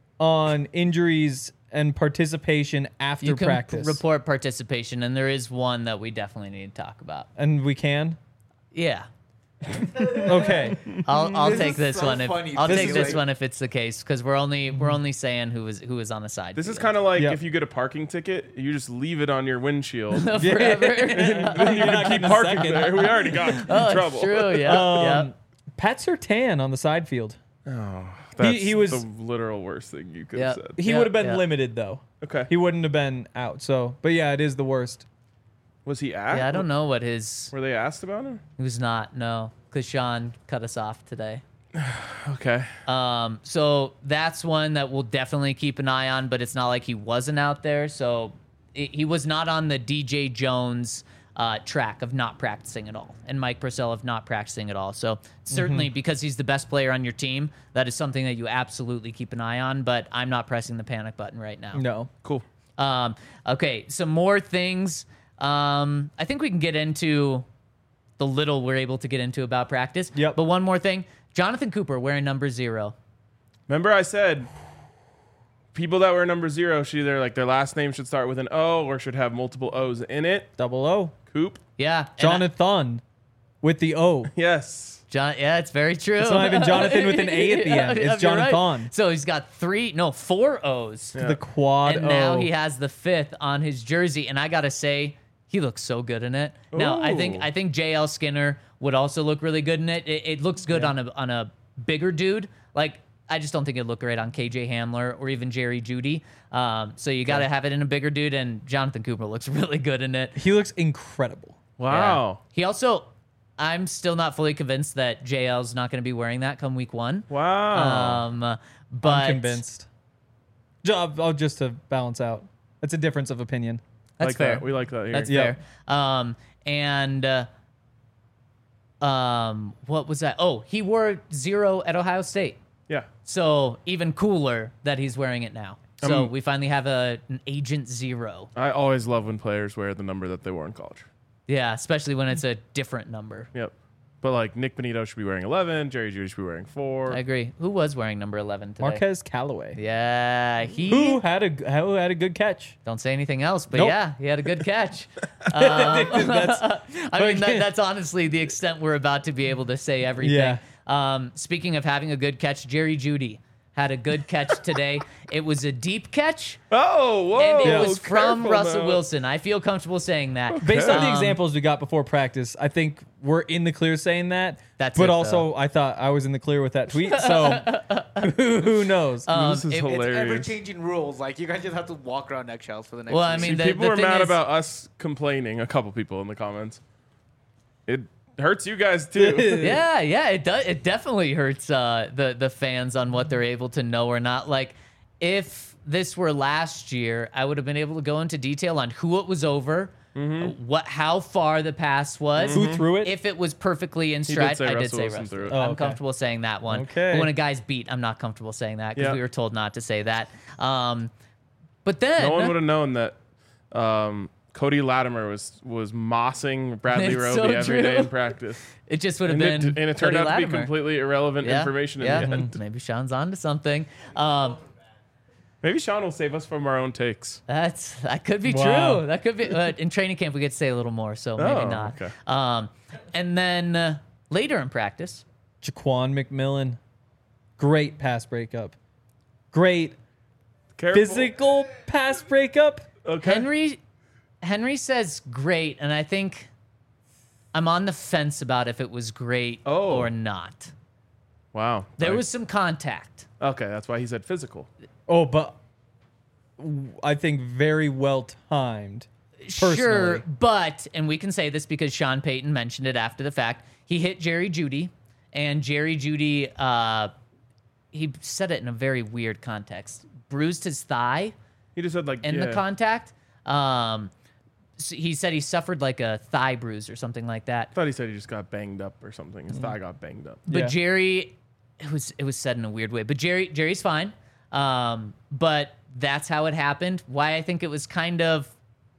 on injuries and participation after You can practice, p- report participation, and there is one that we definitely need to talk about. and we can. Yeah. Okay. I'll I'll This take is this so one if funny I'll to take me, this like- one if it's the case, because we're only we're only saying who was who was on the side. This is kind of like Yep. if you get a parking ticket, you just leave it on your windshield. forever. Then you can keep parking there. We already got in oh, trouble. it's true. Yeah. Um, yeah. Pat Surtain on the side field. That's he was- the literal worst thing you could Yeah. have said. He Yeah, would have been yeah. limited though. Okay. He wouldn't have been out. So, but yeah, it is the worst. Was he asked? Yeah. I don't know what his. Were they asked about him? He was not. No, because Sean cut us off today. Okay. Um, so that's one that we'll definitely keep an eye on, but it's not like he wasn't out there. So it, he was not on the D J Jones uh, track of not practicing at all, and Mike Purcell of not practicing at all. So certainly because he's the best player on your team, that is something that you absolutely keep an eye on, but I'm not pressing the panic button right now. No. Cool. Um, okay, some more things. Um, I think we can get into the little we're able to get into about practice. Yep. But one more thing. Jonathan Cooper wearing number zero. Remember I said people that were number zero should either like their last name should start with an O or should have multiple O's in it. Double O. Coop. Yeah. and I- Jonathan with the O. Yes. John, yeah, it's very true. It's not even Jonathan with an A at the end. It's you're right. Jonathan. So he's got three, no, four O's. The quad And O. now he has the fifth on his jersey. And I gotta say, he looks so good in it. Now I think Ooh. I think J L Skinner would also look really good in it. It, it looks good on a on a bigger dude. Like I just don't think it'd look great on K J Hamler or even Jerry Jeudy. Um, so you got to have it in a bigger dude. And Jonathan Cooper looks really good in it. He looks incredible. Wow. Yeah. He also, I'm still not fully convinced that J L's not going to be wearing that come week one. Wow. Um, but I'm convinced. Ju- I'll just to balance out. That's a difference of opinion. That's like fair. That. We like that here. That's Yeah. fair. Um, and uh, um, what was that? Oh, he wore zero at Ohio State. Yeah. So even cooler that he's wearing it now. So Um, we finally have a an agent zero. I always love when players wear the number that they wore in college. Yeah, especially when it's a different number. Yep. But like Nick Benito should be wearing eleven, Jerry Jeudy should be wearing four. I agree. Who was wearing number eleven today? Marquez Callaway. Yeah, he. Who had a who had a good catch? Don't say anything else, but Nope. yeah, he had a good catch. Um, That's, I mean, that, that's honestly the extent we're about to be able to say everything. Yeah. Um, speaking of having a good catch, Jerry Jeudy had a good catch today. It was a deep catch, Oh, whoa. and it was from careful Russell now. Wilson. I feel comfortable saying that. based on the Um, examples we got before practice, I think we're in the clear saying that. That's but it, also, I thought I was in the clear with that tweet. So who knows? Um, This is it- it's hilarious. It's ever changing rules. Like you guys just have to walk around eggshells for the next. Well, I few mean, See, the- people the were thing mad is- about us complaining, a couple people in the comments. It hurts you guys too. Yeah, yeah, it does. It definitely hurts uh, the the fans on what they're able to know or not. Like, if this were last year, I would have been able to go into detail on who it was over, Mm-hmm. what, how far the pass was, Who threw it? if it was perfectly in did stride. say I did Russell say Wilson Russell. threw it. Oh, I'm okay. comfortable saying that one. Okay. But when a guy's beat, I'm not comfortable saying that because Yeah. we were told not to say that. Um, but then No one would have known that um, Cody Latimer was was mossing Bradley It's Roby so every day true. in practice. it just would have And been it, and it turned Cody out to be Latimer. completely irrelevant Yeah, information yeah. in the end. Maybe Sean's onto something. Um, Maybe Sean will save us from our own takes. That's that could be Wow. true. That could be uh, in training camp. We get to say a little more, so maybe Oh, not. okay. Um, and then uh, later in practice, Jaquan McMillan, great pass breakup, great Careful. physical pass breakup. Okay. Henry Henry says great, and I think I'm on the fence about if it was great Oh. or not. Wow. There Like- was some contact. okay. That's why he said physical. Oh, but I think very well timed. Sure, Personally. but and we can say this because Sean Payton mentioned it after the fact. He hit Jerry Jeudy, and Jerry Jeudy, uh, he said it in a very weird context. Bruised his thigh He just said like in yeah. the contact. Um, so he said he suffered like a thigh bruise or something like that. I thought he said he just got banged up or something. His thigh got banged up. But Yeah. Jerry, it was it was said in a weird way. But Jerry Jerry's fine. Um, but that's how it happened. Why I think it was kind of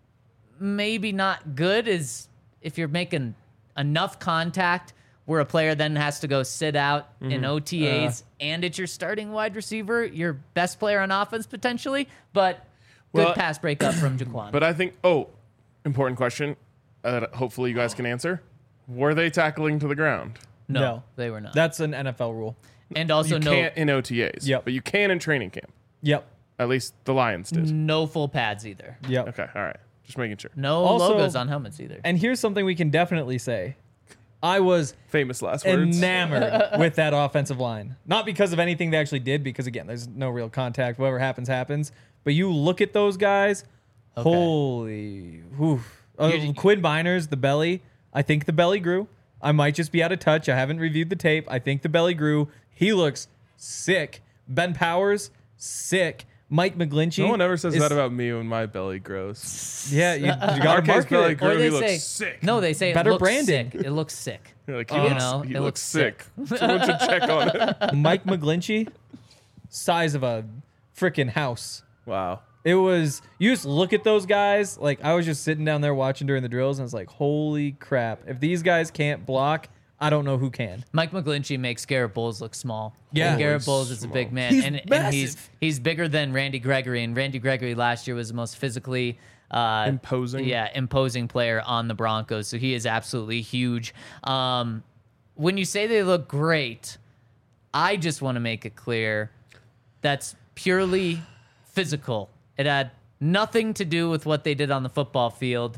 maybe not good is if you're making enough contact where a player then has to go sit out in O T As and it's your starting wide receiver, your best player on offense potentially. But good Well, pass breakup from Jaquan. But I think, oh, important question uh, that hopefully you guys can answer. Were they tackling to the ground? no, No. they were not. That's an N F L rule. and also you no can't in O T As. Yep. But you can in training camp. Yep. At least the Lions did. no full pads either. Yep. Okay. All right. Just making sure. No Also- logos on helmets either. And here's something we can definitely say. I was Famous last words. enamored with that offensive line. Not because of anything they actually did, because again, there's no real contact. Whatever happens, happens. But you look at those guys, Okay. holy, whew. Uh, You- Quinn Binders, the belly. I think the belly grew. I might just be out of touch. I haven't reviewed the tape. I think the belly grew. He looks sick. Ben Powers, sick. Mike McGlinchey. No one ever says is- that about me when my belly grows. Yeah, you, you gotta Marquez market belly it. grew. Or they he looks say sick. no, they say Better it looks branding. sick. It looks sick. You're like, he You looks, know, he it looks looks sick. Someone should check on it. Mike McGlinchey, size of a freaking house. Wow. It was, you just look at those guys. Like, I was just sitting down there watching during the drills, and it's like, holy crap. If these guys can't block, I don't know who can. Mike McGlinchey makes Garrett Bowles look small. Yeah. And Garrett He's Bowles is a small. big man, He's and, and massive. he's he's bigger than Randy Gregory. And Randy Gregory last year was the most physically uh, Imposing. yeah, imposing player on the Broncos. So he is absolutely huge. Um, when you say they look great, I just want to make it clear that's purely physical. It had nothing to do with what they did on the football field.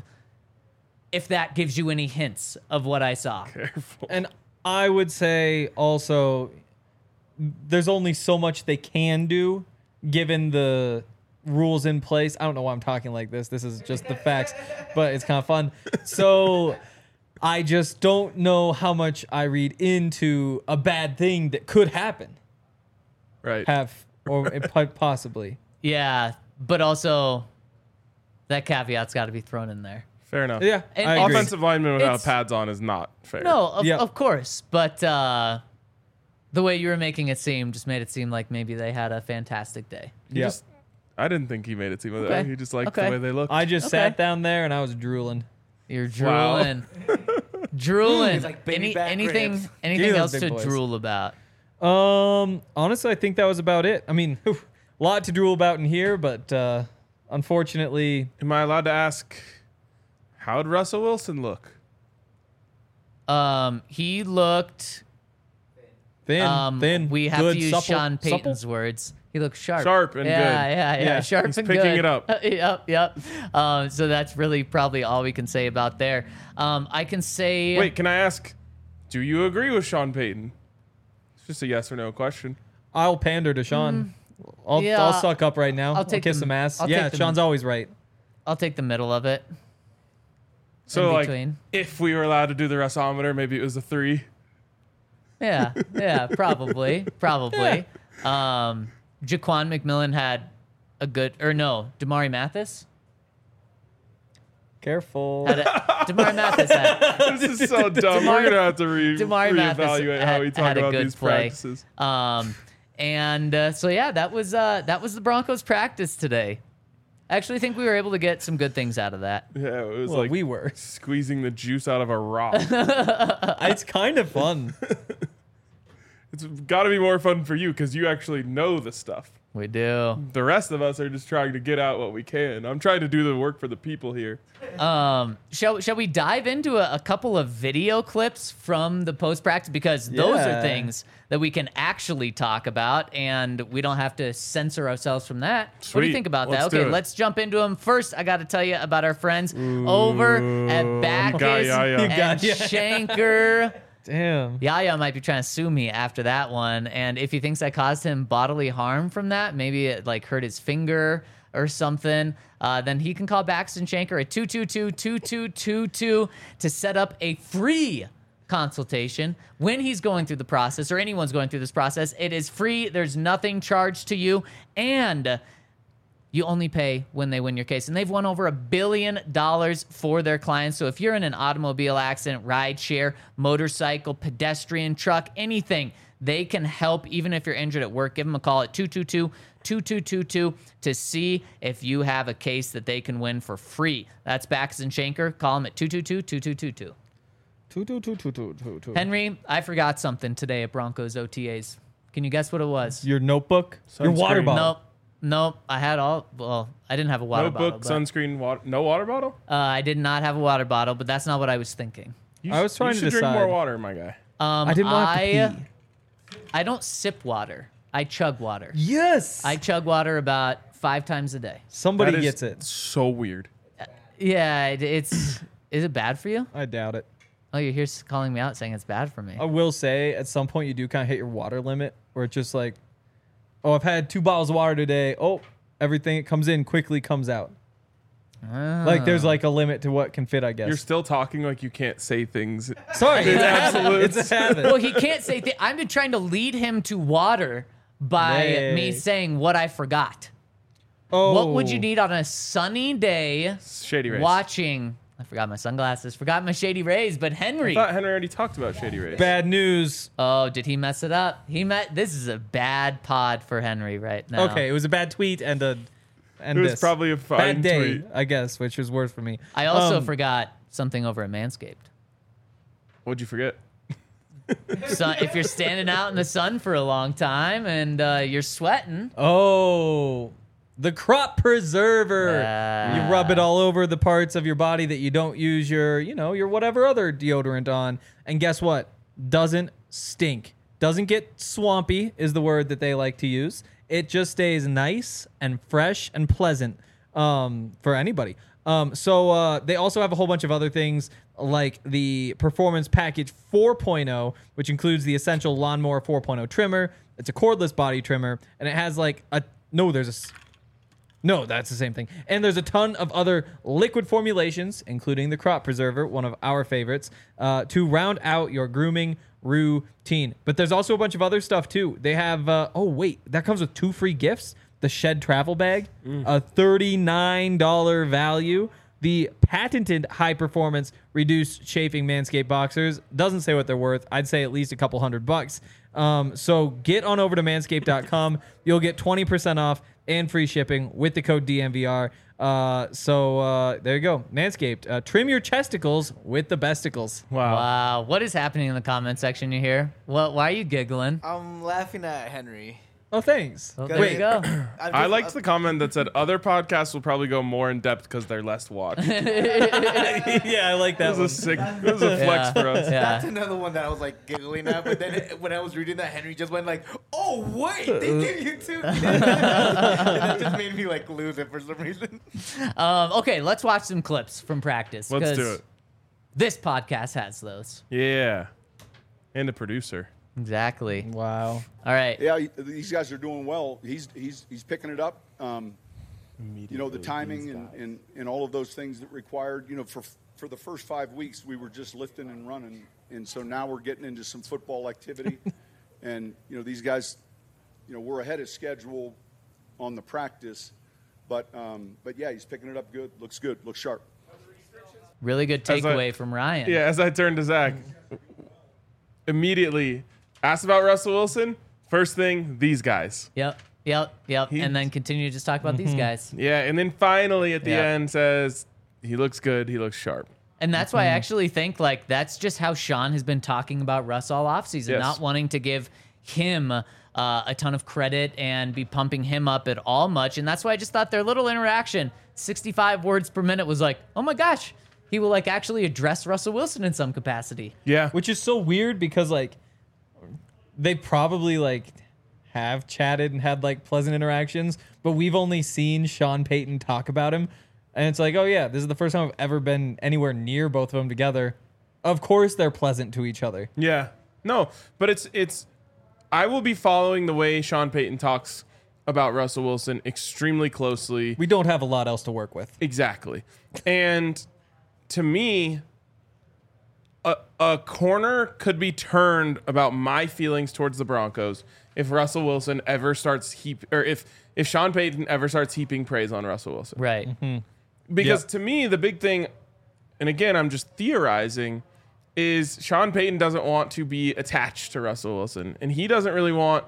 If that gives you any hints of what I saw. Careful. And I would say also, there's only so much they can do given the rules in place. I don't know why I'm talking like this. This is just the facts, but it's kind of fun. So I just don't know how much I read into a bad thing that could happen. Right. Have or it po- possibly. Yeah, but also That caveat's got to be thrown in there. Fair enough. Yeah, And- I and- agree. Offensive lineman without It's- pads on is not fair. No, of, Yeah. of course, but uh, the way you were making it seem just made it seem like maybe they had a fantastic day. He Yeah. just, I didn't think he made it seem like Okay. that. He just liked Okay. the way they looked. I just Okay. sat down there and I was drooling. You're Wow. drooling, drooling. It's like baby Any, back anything, ribs. anything Give me else those to big boys. drool about? Um, honestly, I think that was about it. I mean, whew, a lot to drool about in here, but uh, unfortunately, Am I allowed to ask, how'd Russell Wilson look? Um, he looked. thin, Um, thin. we have good, to use supple, Sean supple. Payton's words. He looks sharp. Sharp and yeah, good. Yeah, yeah, Yeah, Sharp he's and picking good. it up. yep, yep. Um, so that's really probably all we can say about there. Um, I can say. Wait, can I ask, do you agree with Sean Payton? It's just a yes or no question. I'll pander to Sean. I'll, Mm. Yeah, I'll suck up right now. I'll I'll, take kiss the- some ass. I'll yeah, take the- Sean's always right. I'll take the middle of it. So, In like, between. if we were allowed to do the Russometer, maybe it was a three. Yeah, yeah, probably, probably. Um, Jaquan McMillan had a good, or no, Damari Mathis. Careful. Had a, Damari Mathis had, This is so dumb. Damari- We're going to have to re- Damari Mathis reevaluate how had- we talk had a about good these play. practices. Um, and uh, so yeah, that was uh, that was the Broncos practice today. I actually think we were able to get some good things out of that. Yeah, it was Well, like we were. squeezing the juice out of a rock. It's kind of fun. It's got to be more fun for you because you actually know the stuff. We do. The rest of us are just trying to get out what we can. I'm trying to do the work for the people here. Um, shall shall we dive into a, a couple of video clips from the post practice because those are Yeah. things that we can actually talk about and we don't have to censor ourselves from that. What do Sweet. you think about Let's that? do Okay, it. let's jump into them. First, I got to tell you about our friends over at Backus got ya, ya. and got ya. Shanker. Damn. Yaya might be trying to sue me after that one, and if he thinks I caused him bodily harm from that, maybe it like hurt his finger or something, uh, then he can call Baxton Shanker at two two two, two two two two to set up a free consultation when he's going through the process or anyone's going through this process. It is free. There's nothing charged to you, and you only pay when they win your case. And they've won over a billion dollars for their clients. So if you're in an automobile accident, ride share, motorcycle, pedestrian, truck, anything, they can help. Even if you're injured at work, give them a call at two two two, two two two two to see if you have a case that they can win for free. That's Backus and Shanker. Call them at two two two, two two two two. Two, two, two, two, two, two, two. Henry, I forgot something today at Broncos O T As. Can you guess what it was? Your notebook? Your water Sunscreen. bottle? Nope. Nope. I had all, well, I didn't have a water Notebook, bottle. but- sunscreen, water. No water bottle? Uh, I did not have a water bottle, but that's not what I was thinking. You I was sh- trying you to should drink more decide. water, my guy. Um, I didn't want to I, have to pee. I don't sip water. I chug water. Yes. I chug water about five times a day. Somebody That is gets it. so weird. Yeah, it, it's. Is it bad for you? I doubt it. Oh, you're here s- calling me out saying it's bad for me. I will say at some point you do kind of hit your water limit where it's just like, oh, I've had two bottles of water today. Oh, everything that comes in quickly comes out. Like there's like a limit to what can fit, I guess. You're still talking like you can't say things. Sorry, it's a habit. absolutes. It's a habit. Well, he can't say. Th- I've been trying to lead him to water by Nay. me saying what I forgot. oh, What would you need on a sunny day? Shady Rays. Watching. I forgot my sunglasses. Forgot my Shady Rays. But I Henry. thought Henry already talked about Shady Rays. Bad news. Oh, did he mess it up? He met. This is a bad pod for Henry right now. Okay, it was a bad tweet and a and It was this. probably a fine bad day, tweet. I guess, which was worse for me. I also Um, forgot something over at Manscaped. What'd you forget? So if you're standing out in the sun for a long time and uh, you're sweating, Oh, the crop preserver. Yeah. You rub it all over the parts of your body that you don't use your, you know, your whatever other deodorant on. And guess what? Doesn't stink. Doesn't get swampy is the word that they like to use. It just stays nice and fresh and pleasant um, for anybody. Um, so uh, they also have a whole bunch of other things like the Performance Package four point oh, which includes the Essential Lawnmower four point oh trimmer. It's a cordless body trimmer, and it has like a no. There's a s- no. That's the same thing. And there's a ton of other liquid formulations, including the Crop Preserver, one of our favorites, uh, to round out your grooming routine. But there's also a bunch of other stuff too. They have. Uh, oh wait, that comes with two free gifts. the Shed travel bag, Mm. a thirty-nine dollars value. The patented high-performance reduced chafing Manscaped boxers. Doesn't say what they're worth. I'd say at least a couple hundred bucks. Um, so get on over to manscaped dot com. You'll get twenty percent off and free shipping with the code D M V R. Uh, so uh, there you go. Manscaped. Uh, trim your chesticles with the besticles. Wow. Wow. What is happening in the comment section you hear? Well, why are you giggling? I'm laughing at Henry. Oh, thanks. Well, there you Wait, go. I've I just- liked the comment that said other podcasts will probably go more in depth because they're less watched. yeah, I like That that was a one. sick. That was a flex Yeah. for us. That's Yeah. another one that I was like giggling at, but then it, when I was reading that, Henry just went like, "Oh wait, they give you two," and that just made me like lose it for some reason. Um, okay, let's watch some clips from practice. Let's 'cause do it. This podcast has those. Yeah. And a producer. Exactly. Wow. All right. Yeah, these guys are doing well. He's he's he's picking it up. Um, you know, the timing and, and, and all of those things that required. You know, for for the first five weeks, we were just lifting and running, and so now we're getting into some football activity. And you know, these guys, you know, we're ahead of schedule on the practice, but um, but yeah, he's picking it up good. Looks good. Looks sharp. Really good As I- takeaway from Ryan. Yeah, as I turned to Zach, immediately asked about Russell Wilson. First thing, these guys. Yep. Yep. Yep. He- and then continue to just talk about these guys. Yeah, and then finally at the Yeah. end says, he looks good, he looks sharp. And that's why I actually think like that's just how Sean has been talking about Russ all offseason, Yes. not wanting to give him uh, a ton of credit and be pumping him up at all much. And that's why I just thought their little interaction, sixty-five words per minute, was like, oh my gosh, he will like actually address Russell Wilson in some capacity. Yeah. Which is so weird because like they probably like have chatted and had like pleasant interactions, but we've only seen Sean Payton talk about him. And it's like, oh yeah, this is the first time I've ever been anywhere near both of them together. Of course they're pleasant to each other. Yeah. No, but it's it's I will be following the way Sean Payton talks about Russell Wilson extremely closely. We don't have a lot else to work with. Exactly. And to me, a, a corner could be turned about my feelings towards the Broncos if Russell Wilson ever starts heap or if if Sean Payton ever starts heaping praise on Russell Wilson. Right. Because Yep. to me, the big thing, and again, I'm just theorizing, is Sean Payton doesn't want to be attached to Russell Wilson. And he doesn't really want,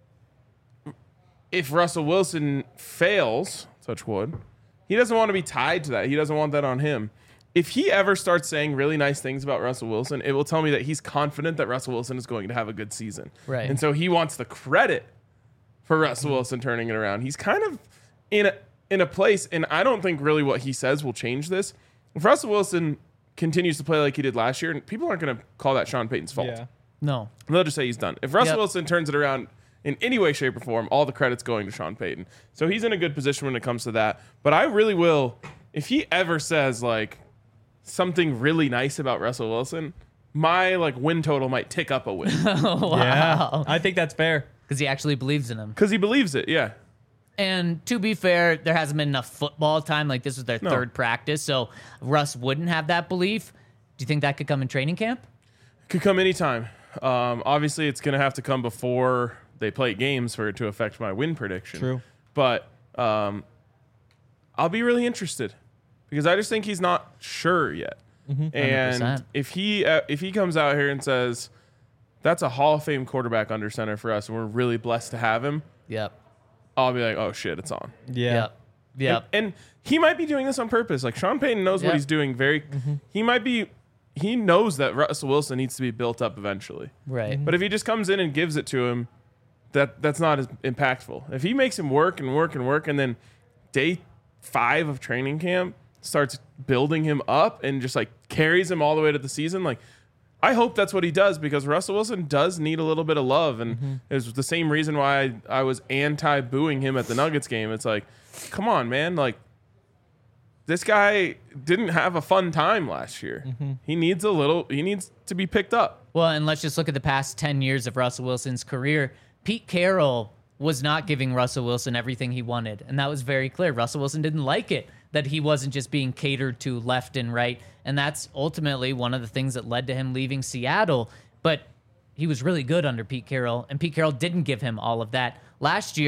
if Russell Wilson fails, touch wood, he doesn't want to be tied to that. He doesn't want that on him. If he ever starts saying really nice things about Russell Wilson, it will tell me that he's confident that Russell Wilson is going to have a good season. Right. And so he wants the credit for Russell Wilson turning it around. He's kind of in a in a place, and I don't think really what he says will change this. If Russell Wilson continues to play like he did last year, people aren't going to call that Sean Payton's fault. Yeah. No. They'll just say he's done. If Russell Yep. Wilson turns it around in any way, shape, or form, all the credit's going to Sean Payton. So he's in a good position when it comes to that. But I really will, if he ever says like something really nice about Russell Wilson, my like win total might tick up a win Yeah. I think that's fair. Because he actually believes in him. because he believes it. Yeah. And to be fair, there hasn't been enough football time. Like this was their No. third practice, so Russ wouldn't have that belief. Do you think that could come in training camp? Could come anytime. Um, obviously, it's going to have to come before they play games for it to affect my win prediction. True. But um, I'll be really interested because I just think he's not sure yet. And one hundred percent. if he uh, if he comes out here and says that's a Hall of Fame quarterback under center for us, and we're really blessed to have him, Yep. I'll be like, oh shit, it's on. Yeah. Yep. Yep. And, and he might be doing this on purpose. Like Sean Payton knows Yep. what he's doing. Very, he might be. He knows that Russell Wilson needs to be built up eventually. Right. But if he just comes in and gives it to him, that that's not as impactful. If he makes him work and work and work, and then day five of training camp starts building him up and just like carries him all the way to the season, like I hope that's what he does because Russell Wilson does need a little bit of love, and it was the same reason why I, I was anti-booing him at the Nuggets game. It's like, come on, man, like this guy didn't have a fun time last year. He needs a little. He needs to be picked up. Well, and let's just look at the past ten years of Russell Wilson's career. Pete Carroll was not giving Russell Wilson everything he wanted, and that was very clear. Russell Wilson didn't like it, that he wasn't just being catered to left and right, and that's ultimately one of the things that led to him leaving Seattle. But he was really good under Pete Carroll, and Pete Carroll didn't give him all of that. Last year,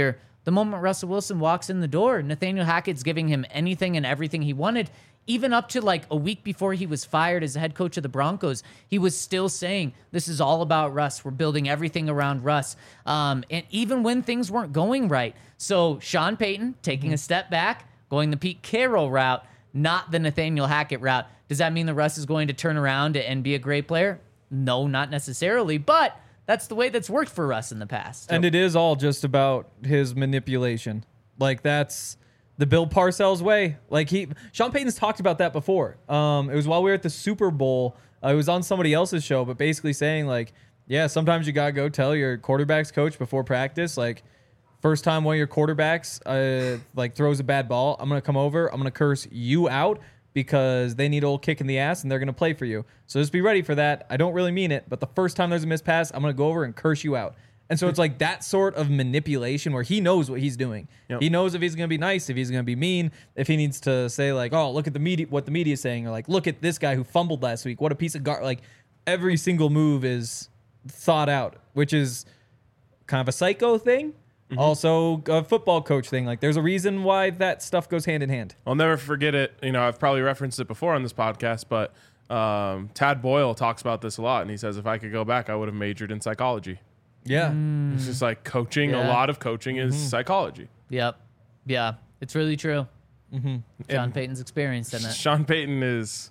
The moment Russell Wilson walks in the door, Nathaniel Hackett's giving him anything and everything he wanted. Even up to like a week before he was fired as the head coach of the Broncos, he was still saying, this is all about Russ. We're building everything around Russ. Um, and even when things weren't going right. So Sean Payton taking mm-hmm. a step back, going the Pete Carroll route, not the Nathaniel Hackett route. Does that mean that Russ is going to turn around and be a great player? No, not necessarily. But that's the way that's worked for Russ in the past. And it is all just about his manipulation. Like, that's the Bill Parcells way. Like, he, Sean Payton's talked about that before. Um, it was while we were at the Super Bowl. Uh, it was on somebody else's show, but basically saying, like, yeah, sometimes you got to go tell your quarterback's coach before practice, like, first time one of your quarterbacks, uh, like, throws a bad ball, I'm going to come over, I'm going to curse you out, because they need a little kick in the ass and they're going to play for you. So just be ready for that. I don't really mean it, but the first time there's a missed pass, I'm going to go over and curse you out. And so it's like that sort of manipulation where he knows what he's doing. Yep. He knows if he's going to be nice, if he's going to be mean, if he needs to say like, oh, look at the media, what the media is saying, or like, look at this guy who fumbled last week. What a piece of gar. Like, every single move is thought out, which is kind of a psycho thing. Mm-hmm. Also, a football coach thing. Like, there's a reason why that stuff goes hand in hand. I'll never forget it. You know, I've probably referenced it before on this podcast, but um, Tad Boyle talks about this a lot, and he says if I could go back, I would have majored in psychology. Yeah. Mm. It's just like coaching. Yeah. A lot of coaching is Mm-hmm. psychology. Yep. Yeah. It's really true. Mm-hmm. John And Payton's experienced in it. Sean Payton is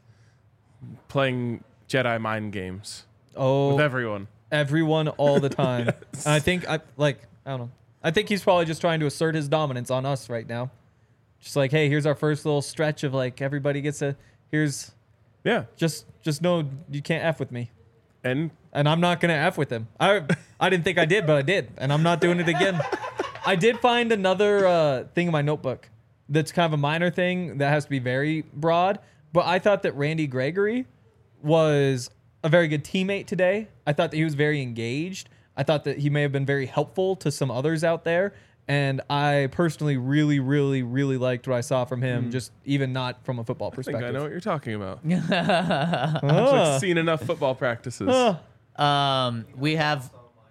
playing Jedi mind games Oh, with everyone. everyone all the time. And I think, I like, I don't know. I think he's probably just trying to assert his dominance on us right now. Just like, hey, here's our first little stretch of like everybody gets a, here's, Yeah. just just know you can't F with me. And And I'm not going to F with him. I I didn't think I did, but I did. And I'm not doing it again. I did find another uh, thing in my notebook that's kind of a minor thing that has to be very broad. But I thought that Randy Gregory was a very good teammate today. I thought that he was very engaged. I thought that he may have been very helpful to some others out there. And I personally really, really, really liked what I saw from him, Mm. just even not from a football I think perspective. I know what you're talking about. Ah. I've seen enough football practices. Ah. Um, we have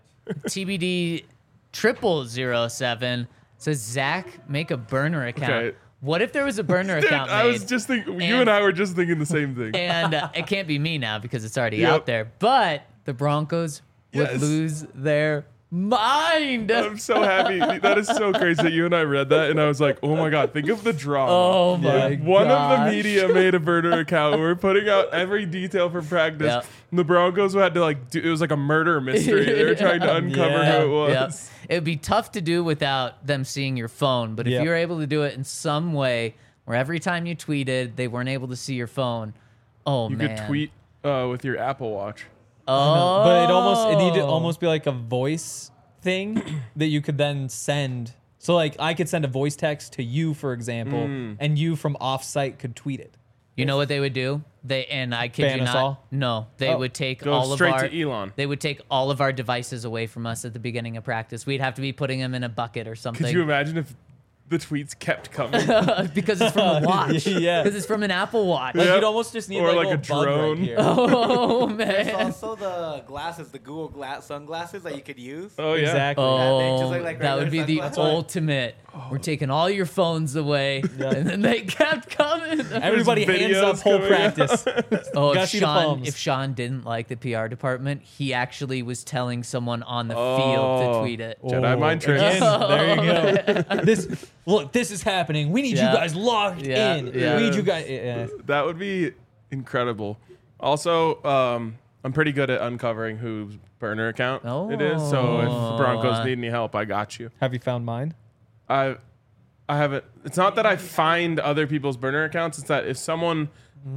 T B D triple zero seven says Zach make a burner account. Okay. What if there was a burner Dude, account I made? was just thinking, you and- and I were just thinking the same thing. and uh, it can't be me now because it's already Yep. out there. But the Broncos Yes. would lose their mind. I'm so happy. That is so crazy that you and I read that, and I was like, oh my God, think of the drama. Oh my If One of the gosh. media made a burner account. We're putting out every detail from practice. Yep. And the Broncos had to like do, it was like a murder mystery. They were trying to uncover Yeah. who it was. Yep. It would be tough to do without them seeing your phone. But if Yep. you were able to do it in some way where every time you tweeted, they weren't able to see your phone. Oh, You man. could tweet uh, with your Apple Watch. Oh. But it almost it needed to almost be like a voice thing that you could then send. So like I could send a voice text to you, for example, Mm. and you from offsite could tweet it. You know what they would do? They and I kid Ban you us not. all? No, they Oh. would take Go all of straight our. to Elon. They would take all of our devices away from us at the beginning of practice. We'd have to be putting them in a bucket or something. Could you imagine if the tweets kept coming? because it's from a watch. Yeah. Because it's from an Apple Watch. Like Yep. you'd almost just need Or like, like a, a bug drone. right here. Oh There's man. also the glasses, the Google glass sunglasses that you could use. Oh, yeah. Exactly. Oh, they just look like that would be regular the sunglasses. ultimate. We're taking all your phones away, and then they kept coming. Everybody hands videos up whole coming practice. Oh, Gotta if see the Sean, palms. if Sean didn't like the P R department, he actually was telling someone on the Oh. field to tweet it. Jedi mind tricks. Again, there you go. This look, this is happening. We need Yeah. you guys locked Yeah, in. yeah. We need you guys. Yeah. That would be incredible. Also, um, I'm pretty good at uncovering whose burner account it is. So if the Broncos Oh. need any help, I got you. Have you found mine? I, I haven't. It's not that I find other people's burner accounts. It's that if someone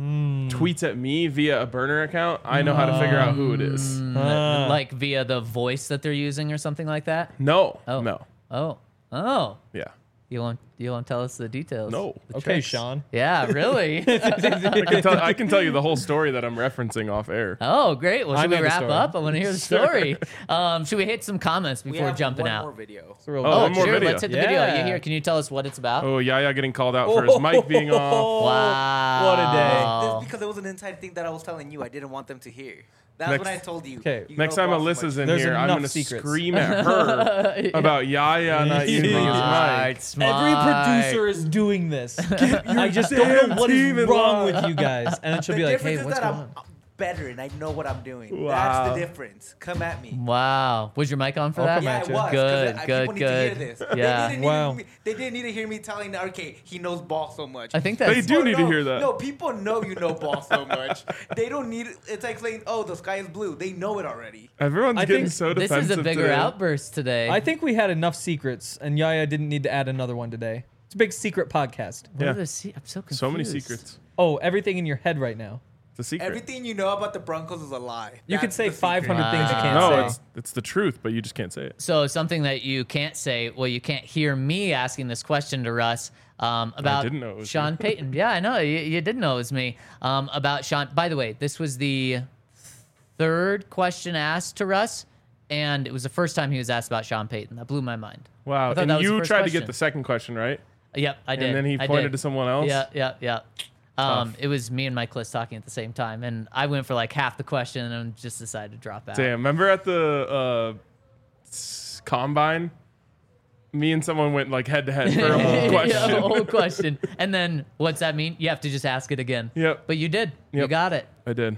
tweets at me via a burner account, I know how to figure out who it is. Ah. Like via the voice that they're using or something like that. No, Oh. no, Oh, oh. yeah. Elon, Do you want to tell us the details? No. The Okay, tricks? Sean. Yeah, really? I can, tell, I can tell you the whole story that I'm referencing off air. Oh, great. Well, I should know we the wrap story. up? I want to hear the story. um, should we hit some comments We before have jumping one out? more video. It's a real Oh, Oh, one more sure. video. Let's hit the video. Yeah. You here? Can you tell us what it's about? Oh, Yaya getting called out for his mic being off. Wow. What a day. That's because it was an inside thing that I was telling you. I didn't want them to hear. That's Next- what I told you. Okay. You Next know time boss so Alyssa's much. in There's here, I'm enough going to secrets. scream at her about Yaya not using his Smart, mic. smart. Every producer is doing this. I just don't damn know what is team in wrong line. with you guys. And then she'll The be like, hey, difference is what's that going I'm on? better and I know what I'm doing. Wow. That's the difference. Come at me. Wow. Was your mic on for I'll that? come Yeah, at it you. was. 'cause Good, I- good, people need to hear good. this. Yeah. They didn't, Wow. need, they didn't need to hear me telling, okay, he knows ball so much. I think They that's do People need to know- hear that. No, people know you know ball so much. They don't need it's like saying, oh, the sky is blue. They know it already. Everyone's I getting think so this defensive is a bigger today. outburst today. I think we had enough secrets, and Yaya didn't need to add another one today. It's a big secret podcast. What Yeah. are the se- I'm so confused. So many secrets. Oh, everything in your head right now. It's a secret. Everything you know about the Broncos is a lie. You could That's say the secret. five hundred things you Wow. can't no, say. it's it's the truth, but you just can't say it. So something that you can't say, well, you can't hear me asking this question to Russ um, about didn't know it was Sean you. Payton. Yeah, I know you, you didn't know it was me. Um, about Sean. By the way, this was the third question asked to Russ, and it was the first time he was asked about Sean Payton. That blew my mind. Wow. I thought And that was the you first tried to question. get the second question, right? Yep, I did. And then he I pointed did. to someone else? Yeah, yeah, yeah. Um, Tough. it was me and Mike Liss talking at the same time, and I went for like half the question and then just decided to drop out. Damn. Remember at the uh, s- combine? Me and someone went like head to head for a whole question. Yeah, the whole question. And then what's that mean? You have to just ask it again. Yep. But you did. You Yep. got it. I did.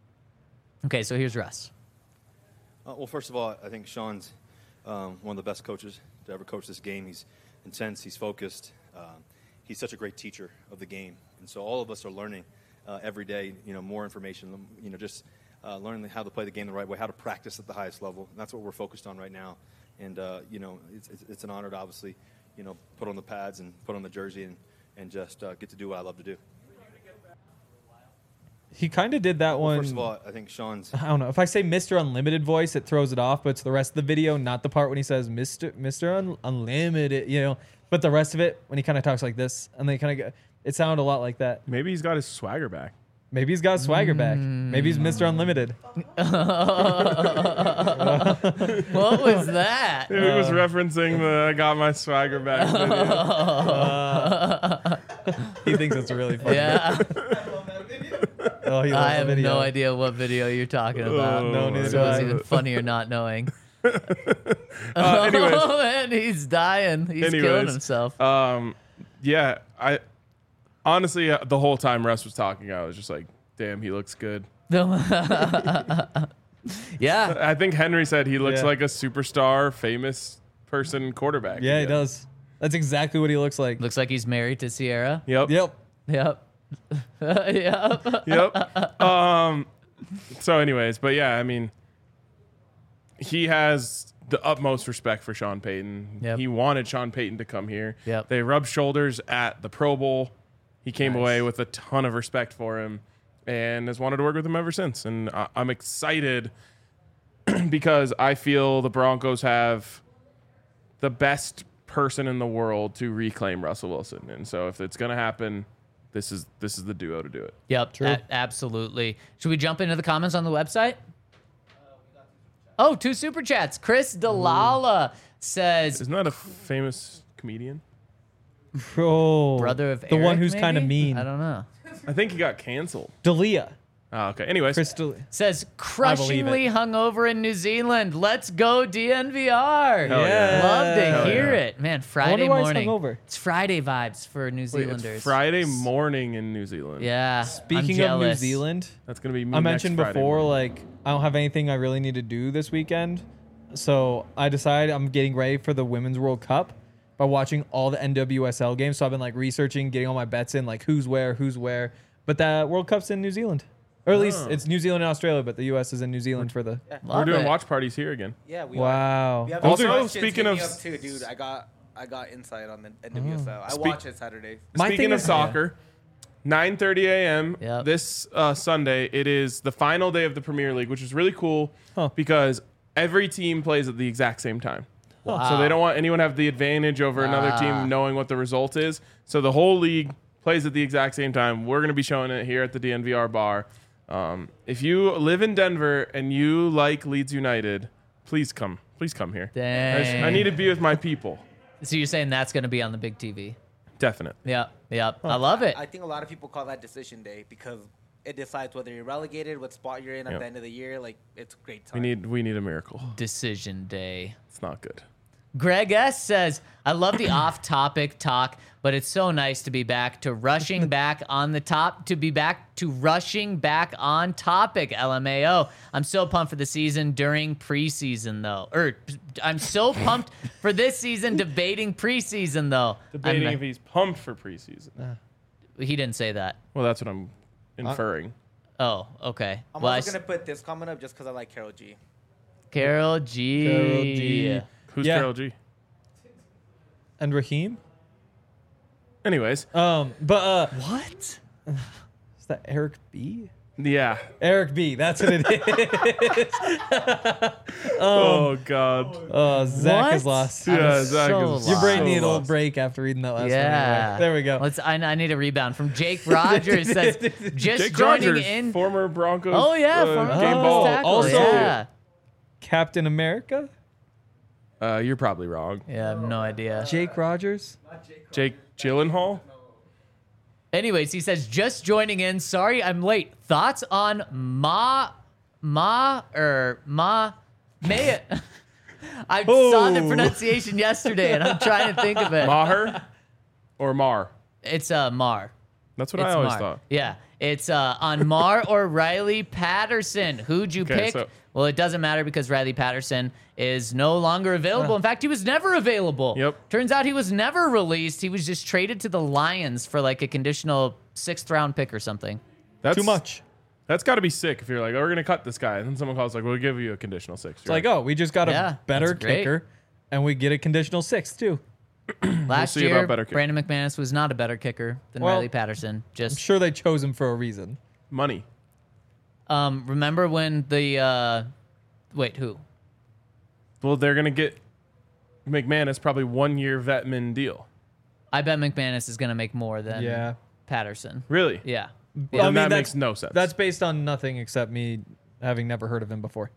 Okay, so here's Russ. Uh, well, first of all, I think Sean's um, one of the best coaches to ever coach this game. He's intense. He's focused. Um, he's such a great teacher of the game, and so all of us are learning uh, every day. You know, more information. You know, just uh, learning how to play the game the right way, how to practice at the highest level. And that's what we're focused on right now. And uh, you know, it's, it's, it's an honor to obviously, you know, put on the pads and put on the jersey and and just uh, get to do what I love to do. He kind of did that Well, one. first of all, I think Sean's. I don't know. If I say Mister Unlimited voice, it throws it off, but it's the rest of the video, not the part when he says Mister Mister Un- Unlimited, you know. But the rest of it, when he kind of talks like this, and they kind of, it sounded a lot like that. Maybe he's got his swagger back. Maybe he's got swagger back. Maybe he's Mister Unlimited. What was that? He was referencing the I got my swagger back video. He thinks it's really funny. Yeah. Oh, he loves I the have video. no idea what video you're talking about. Oh, No, neither so do it's I. even funnier not knowing. Uh, anyways, Oh, man, he's dying. He's killing Anyways, himself. um, yeah, I honestly uh, the whole time Russ was talking, I was just like, "Damn, he looks good." Yeah. I think Henry said he looks Yeah. like a superstar, famous person quarterback. Yeah, he again. does. That's exactly what he looks like. Looks like he's married to Sierra. Yep. Yep. Yep. Yep. Yep. um. So, anyways, but yeah, I mean, he has the utmost respect for Sean Payton. Yep. He wanted Sean Payton to come here. Yep. They rubbed shoulders at the Pro Bowl. He came Nice. away with a ton of respect for him and has wanted to work with him ever since. And I- I'm excited because I feel the Broncos have the best person in the world to reclaim Russell Wilson. And so if it's going to happen, this is this is the duo to do it. Yep. True. a- absolutely. Should we jump into the comments on the website? Oh, two super chats. Chris Delala says, Isn't that a famous comedian? Oh, brother of the Eric, one who's kind of maybe? mean. I don't know. I think he got canceled. Dalia. Oh, okay. Anyways, Crystal. Says crushingly hungover in New Zealand. Let's go D N V R. Hell yeah. Love to Hell hear yeah. it, man. Friday why he's morning. hungover. It's Friday vibes for New wait, Zealanders. it's Friday morning in New Zealand. Yeah. I'm Speaking of New jealous. Zealand, That's going to be me I next mentioned Friday before, morning. like, I don't have anything I really need to do this weekend. So I decided I'm getting ready for the Women's World Cup by watching all the N W S L games. So I've been, like, researching, getting all my bets in, like, who's where, who's where. But the World Cup's in New Zealand. Or at least Oh. it's New Zealand and Australia, but the U S is in New Zealand for the... We're Love doing it. watch parties here again. Yeah, we Wow. are. We have Also, questions, speaking hit of me up too, dude. I got I got insight on the N W S L. I Speak- watch it Saturdays. My Speaking thing of is- soccer, nine thirty a.m. Yep. this uh, Sunday, it is the final day of the Premier League, which is really cool Huh. because every team plays at the exact same time. Wow. So they don't want anyone to have the advantage over another Ah. team knowing what the result is. So the whole league plays at the exact same time. We're going to be showing it here at the D N V R bar. Um, if you live in Denver and you like Leeds United, please come. Please come here. I, just- I Dang. need to be with my people. So you're saying that's going to be on the big T V? Definitely. Yep. Yep. I love it. I think a lot of people call that decision day because it decides whether you're relegated, what spot you're in at Yeah. the end of the year. Like, it's a great We time. need we need a miracle. Decision day. It's not good. Greg S says, I love the off-topic talk, but it's so nice to be back to rushing back on the top, to be back to rushing back on topic, L M A O. I'm so pumped for the season during preseason, though. Or I'm so pumped for this season debating preseason, though. Debating I'm- if he's pumped for preseason. He didn't say that. Well, that's what I'm inferring. Oh, okay. I'm Well, I also s- going to put this comment up just because I like Carol G. Carol G. Carol G. Who's Yeah. Carol G? And Raheem. Anyways, Um, but uh, What? is that Eric B? yeah. Eric B. That's what it is. oh God. Oh, Zach What? is lost. Yeah, I'm Zach so is Your brain so needed a little lost. break after reading that last Yeah. one. Anyway. There we go. Let's. I, I need a rebound from Jake Rogers. Says just Jake joining Rogers, in. former Broncos. Oh yeah, uh, former game Broncos ball. tackle, Also- yeah. Captain America, Uh, you're probably wrong. Yeah, I have no idea. Jake Rogers. Jake Gyllenhaal. Anyways, he says just joining in. Sorry, I'm late. Thoughts on Ma, Ma or Ma, May? I saw the Oh. pronunciation yesterday, and I'm trying to think of it. Maher or Mar. It's uh Mar. That's what It's I always Mar. thought. Yeah, it's uh, on Mar or Riley Patterson. Who'd you Okay, pick? so- Well, it doesn't matter because Riley Patterson is no longer available. In fact, he was never available. Yep. Turns out he was never released. He was just traded to the Lions for like a conditional sixth round pick or something. That's Too much. That's got to be sick if you're like, oh, we're gonna cut this guy, and then someone calls like, we'll give you a conditional six. It's like, oh, we just got a Yeah, better that's great. kicker, and we get a conditional six too. Last see year, about better kick. Brandon McManus was not a better kicker than Well, Riley Patterson. I'm Just sure they chose him for a reason. money. um, remember when the uh, wait who? Well, they're gonna get McManus probably one year vetman deal. I bet McManus is going to make more than Yeah. Patterson. Really? Yeah. Well, I then mean, that that's- makes no sense. That's based on nothing except me having never heard of him before.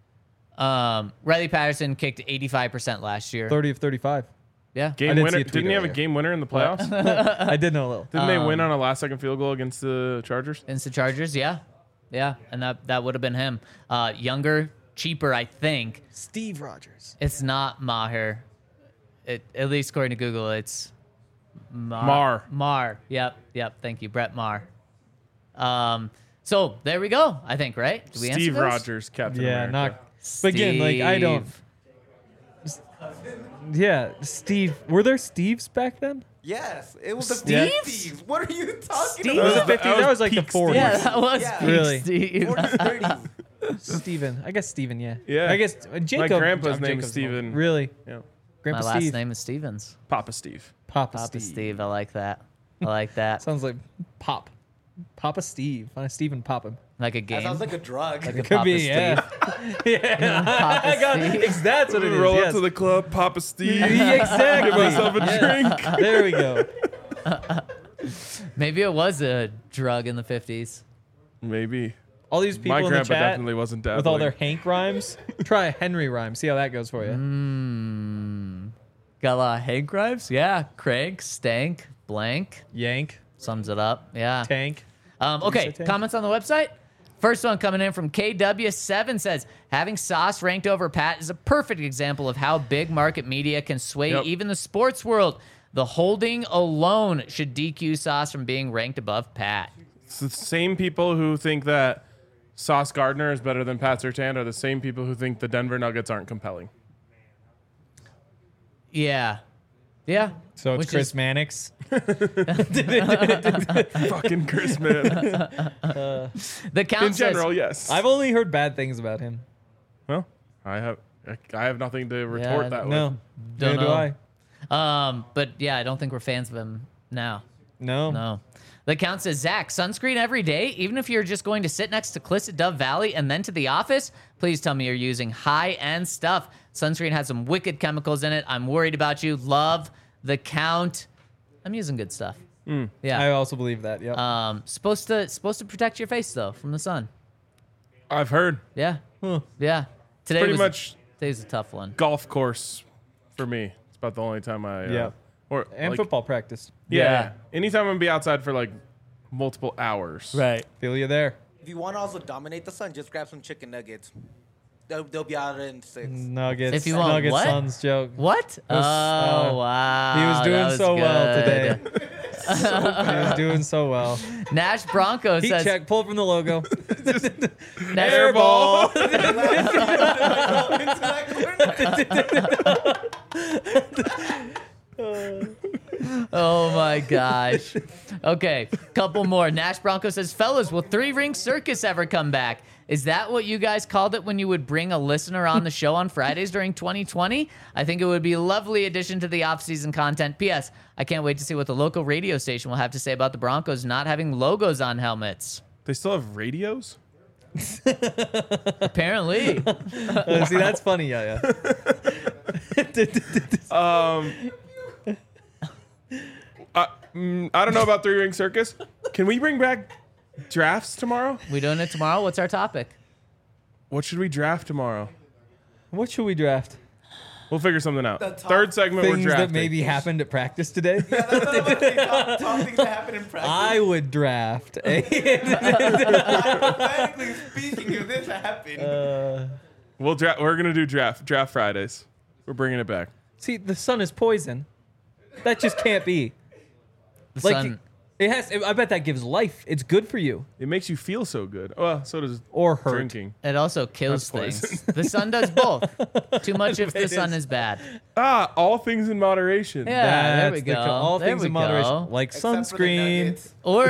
Um, Riley Patterson kicked eighty-five percent last year. thirty of thirty-five. Yeah. game I didn't winner. see a tweet Didn't he have a earlier. game winner in the playoffs? I did know a little. Didn't they Um, win on a last second field goal against the Chargers? Against the Chargers, yeah. Yeah. And that, that would have been him. Uh, younger, cheaper, I think. Steve Rogers. It's not Maher. It, at least according to Google, it's Mar. Mar. Mar. Yep. Yep. Thank you, Brett Mar. Um, so there we go, I think, right? Did we answer Steve those? Rogers, Captain Yeah, America. not. But again, like I don't. Steve. Yeah, Steve. Were there Steves back then? Yes, it was the Steve? fifties. What are you talking Steve? It was the about? fifties. That was like the peak forties. Yeah, that was Yeah. peak Really? Steve. forties, thirties. Steven. I guess Steven, yeah. Yeah. I guess uh, Jacob. My grandpa's John name Jacob's is Steven. Really? Yeah. Grandpa My last Steve. name is Stevens. Papa Steve. Papa, Papa Steve. Steve. I like that. I like that. Sounds like Pop. Papa Steve. Find Steven Pop him. Like a That game. sounds like a drug. Like a Could Papa be, Steve. yeah. yeah. Papa I got, Steve. ex- that's what it is. Roll yes. up to the club, Papa Steve. Yeah, exactly. Give myself a Yeah. drink. There we go. Maybe it was a drug in the fifties. Maybe. All these people My in the grandpa chat definitely wasn't dabbling. with all their Hank rhymes. Try a Henry rhyme. See how that goes for you. Mm. Got a lot of Hank rhymes? Yeah. Crank, stank, blank. Yank, Sums it up. Yeah. tank. Um, you okay, say tank? comments on the website. First one coming in from K W seven says, having Sauce ranked over Pat is a perfect example of how big market media can sway Yep. even the sports world. The holding alone should D Q Sauce from being ranked above Pat. It's the same people who think that Sauce Gardner is better than Pat Surtain are the same people who think the Denver Nuggets aren't compelling. Yeah. Yeah. So it's Which Chris is- Mannix. Fucking Chris, man. The count In general, says, yes. I've only heard bad things about him. well, I have I have nothing to retort Yeah, that No, with. Don't neither do know. I. um, but yeah, I don't think we're fans of him now. No. No. The count says, Zach, sunscreen every day, even if you're just going to sit next to Cliffs at Dove Valley and then to the office? Please tell me you're using high-end stuff. Sunscreen has some wicked chemicals in it. I'm worried about you. Love the count. I'm using good stuff. Mm. Yeah. I also believe that. Yep. Um, supposed to supposed to protect your face though from the sun. I've heard. Yeah. Huh. Yeah. Today Pretty was much today's a tough one. golf course for me. It's about the only time I. Uh, Yeah. Or and like, football practice. Yeah. Yeah. Anytime I'm gonna be outside for like multiple hours. Right. Feel you there. If you want to also dominate the sun, just grab some chicken nuggets. They'll, they'll be out in six. Nuggets. If you want Nuggets what? Suns joke. What? Oh was, uh, wow. He was that doing so well good. today. He was doing so well. Nash Bronco Heat says check. Pull from the logo. Nash Airball. Oh my gosh. Okay, couple more. Nash Bronco says, fellas, will Three Ring Circus ever come back? Is that what you guys called it when you would bring a listener on the show on Fridays during twenty twenty? I think it would be a lovely addition to the off-season content. P S. I can't wait to see what the local radio station will have to say about the Broncos not having logos on helmets. They still have radios? Apparently. Uh, see, that's funny. Yeah, yeah. Um, uh, mm, I don't know about Three Ring Circus. Can we bring back drafts tomorrow? We doing it tomorrow? What's our topic? What should we draft tomorrow? What should we draft? We'll figure something out. The top Third segment, we're Things drafting. that maybe happened at practice today. top, top things that happen in practice. I would draft. a- Hypothetically speaking, if this happened. uh, We'll dra- We're gonna do draft draft Fridays. We're bringing it back. see, the sun is poison. That just can't be. The Like sun. it has. I bet that gives life. It's good for you. It makes you feel so good. Well, so does Or hurt. drinking. It also kills That's things. The sun does both. Too much if the It sun is. is bad. Ah, all things in moderation. Yeah, there we That's the go. co- all There things we in moderation, go. like Except for the sunscreen. nuggets. Or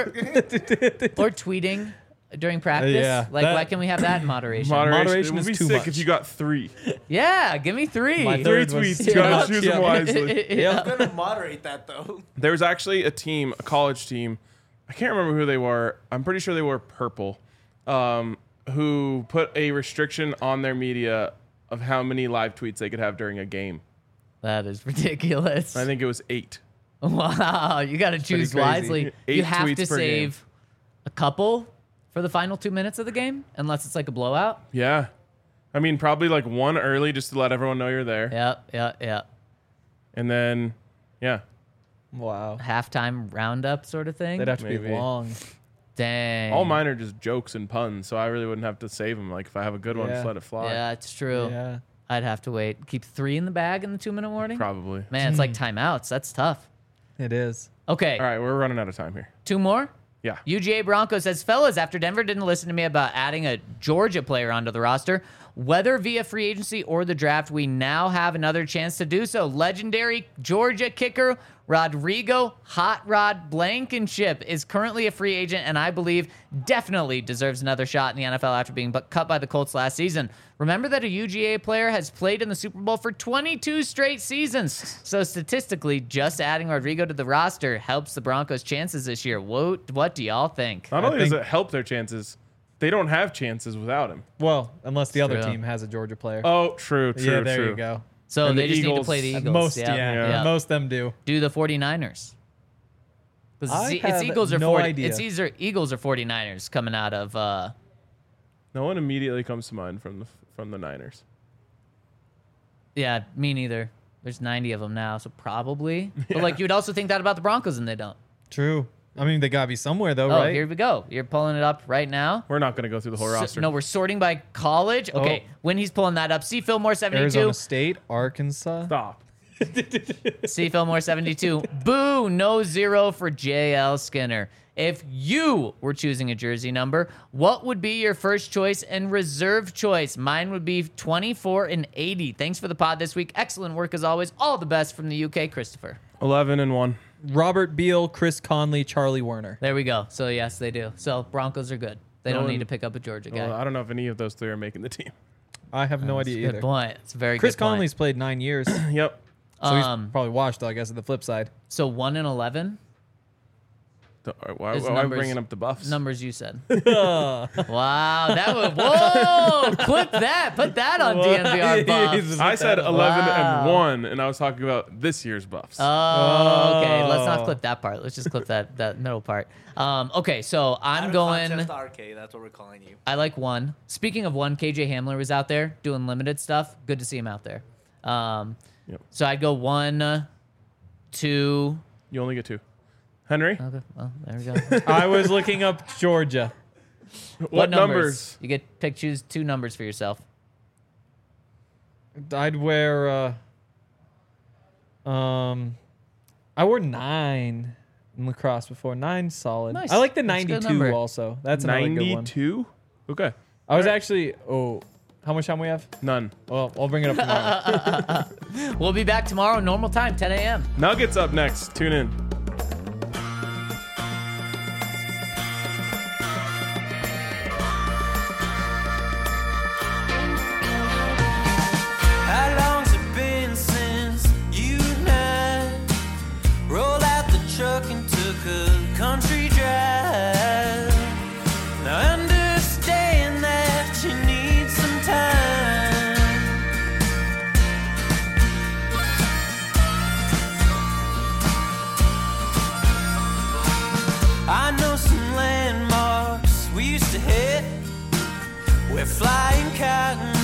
or tweeting during practice. yeah, like, that- why can we have that in moderation? Moderation, Moderation it would is be too sick much. if you got three. Yeah, give me three. My Three third was- tweets. Yeah. You gotta choose them Yeah. wisely. Yeah. I'm gonna moderate that though. There was actually a team, a college team. I can't remember who they were. I'm pretty sure they were purple, um, who put a restriction on their media of how many live tweets they could have during a game. That is ridiculous. I think it was eight. Wow, you got to choose crazy. wisely. Eight you have tweets to per game. save a couple for the final two minutes of the game, unless it's like a blowout. Yeah. I mean, probably like one early just to let everyone know you're there. Yep, yep, yep. And then, yeah. Wow. Halftime roundup sort of thing. They'd have to Maybe. be long. Dang. All mine are just jokes and puns, so I really wouldn't have to save them. Like, if I have a good one, Yeah. just let it fly. Yeah, it's true. Yeah. I'd have to wait. Keep three in the bag in the two minute warning. Probably. Man, it's like timeouts. That's tough. It is. Okay, All right, we're running out of time here. two more. Yeah. U G A Bronco says, fellas, after Denver didn't listen to me about adding a Georgia player onto the roster, whether via free agency or the draft, we now have another chance to do so. Legendary Georgia kicker Rodrigo Hot Rod Blankenship is currently a free agent and I believe definitely deserves another shot in the N F L after being bu- cut by the Colts last season. Remember that a U G A player has played in the Super Bowl for twenty-two straight seasons. So statistically, just adding Rodrigo to the roster helps the Broncos' chances this year. What, what do y'all think? Not I only does think- it help their chances, they don't have chances without him. Well, unless the other True. team has a Georgia player. Oh, true, true, yeah, there true. you go. So And they the just need to Eagles- play the Eagles. Most, yeah. yeah, Yeah. most them do. Do the 49ers. 'Cause I It's, it's have Eagles or no 40, idea. It's either Eagles or 49ers coming out of uh No one immediately comes to mind from the from the Niners. yeah, me neither. There's ninety of them now, so probably. But like you would also think that about the Broncos and they don't. True. I mean, they gotta be somewhere though, Oh, right? here we go. You're pulling it up right now. We're not going to go through the whole So- roster. no, we're sorting by college. Okay, Oh. when he's pulling that up, C. Fillmore seventy-two. Arizona State, Arkansas. Stop. C. Fillmore seventy-two. Boo, no zero for J L Skinner. If you were choosing a jersey number, what would be your first choice and reserve choice? Mine would be twenty-four and eighty. Thanks for the pod this week. Excellent work as always. All the best from the U K, Christopher. eleven and one. Robert Beal, Chris Conley, Charlie Werner. There we go. So yes, they do. So Broncos are good. They No don't one- need to pick up a Georgia guy. Well, I don't know if any of those three are making the team. I have no That's a idea good either. point. It's a very Chris good point. Conley's played nine years, so Yep. Um, he's probably washed. Though I guess at the flip side. So one and eleven. The- Why, It's why am I numbers- bringing up the Buffs? Numbers you said. Wow, that would whoa! Clip that. Put that on D N V R Buffs. I said eleven Wow. and one, and I was talking about this year's Buffs. Oh, okay. Let's not Oh. clip that part. Let's just clip that that middle part. Um, okay, so I'm Out of going. context R K, that's what we're calling you. I like one. Speaking of one, K J Hamler was out there doing limited stuff. Good to see him out there. Um, Yep. So I'd go one, two. You only get two. Henry, Okay, well there we go. I was looking up Georgia. what, numbers? You get pick choose two numbers for yourself. I'd wear. Uh, um, I wore nine in lacrosse before. Nine solid. Nice. I like the That's a good ninety-two number. also. That's another good one. ninety-two? Okay. I was actually. Oh, how much time we have? None. Well, I'll bring it up tomorrow. We'll be back tomorrow, normal time, ten a.m. Nuggets up next. Tune in. How long's it been since you and I rolled out the truck and took a country drive? Now I understand that you need some time. I know some landmarks we used to hit where flying cotton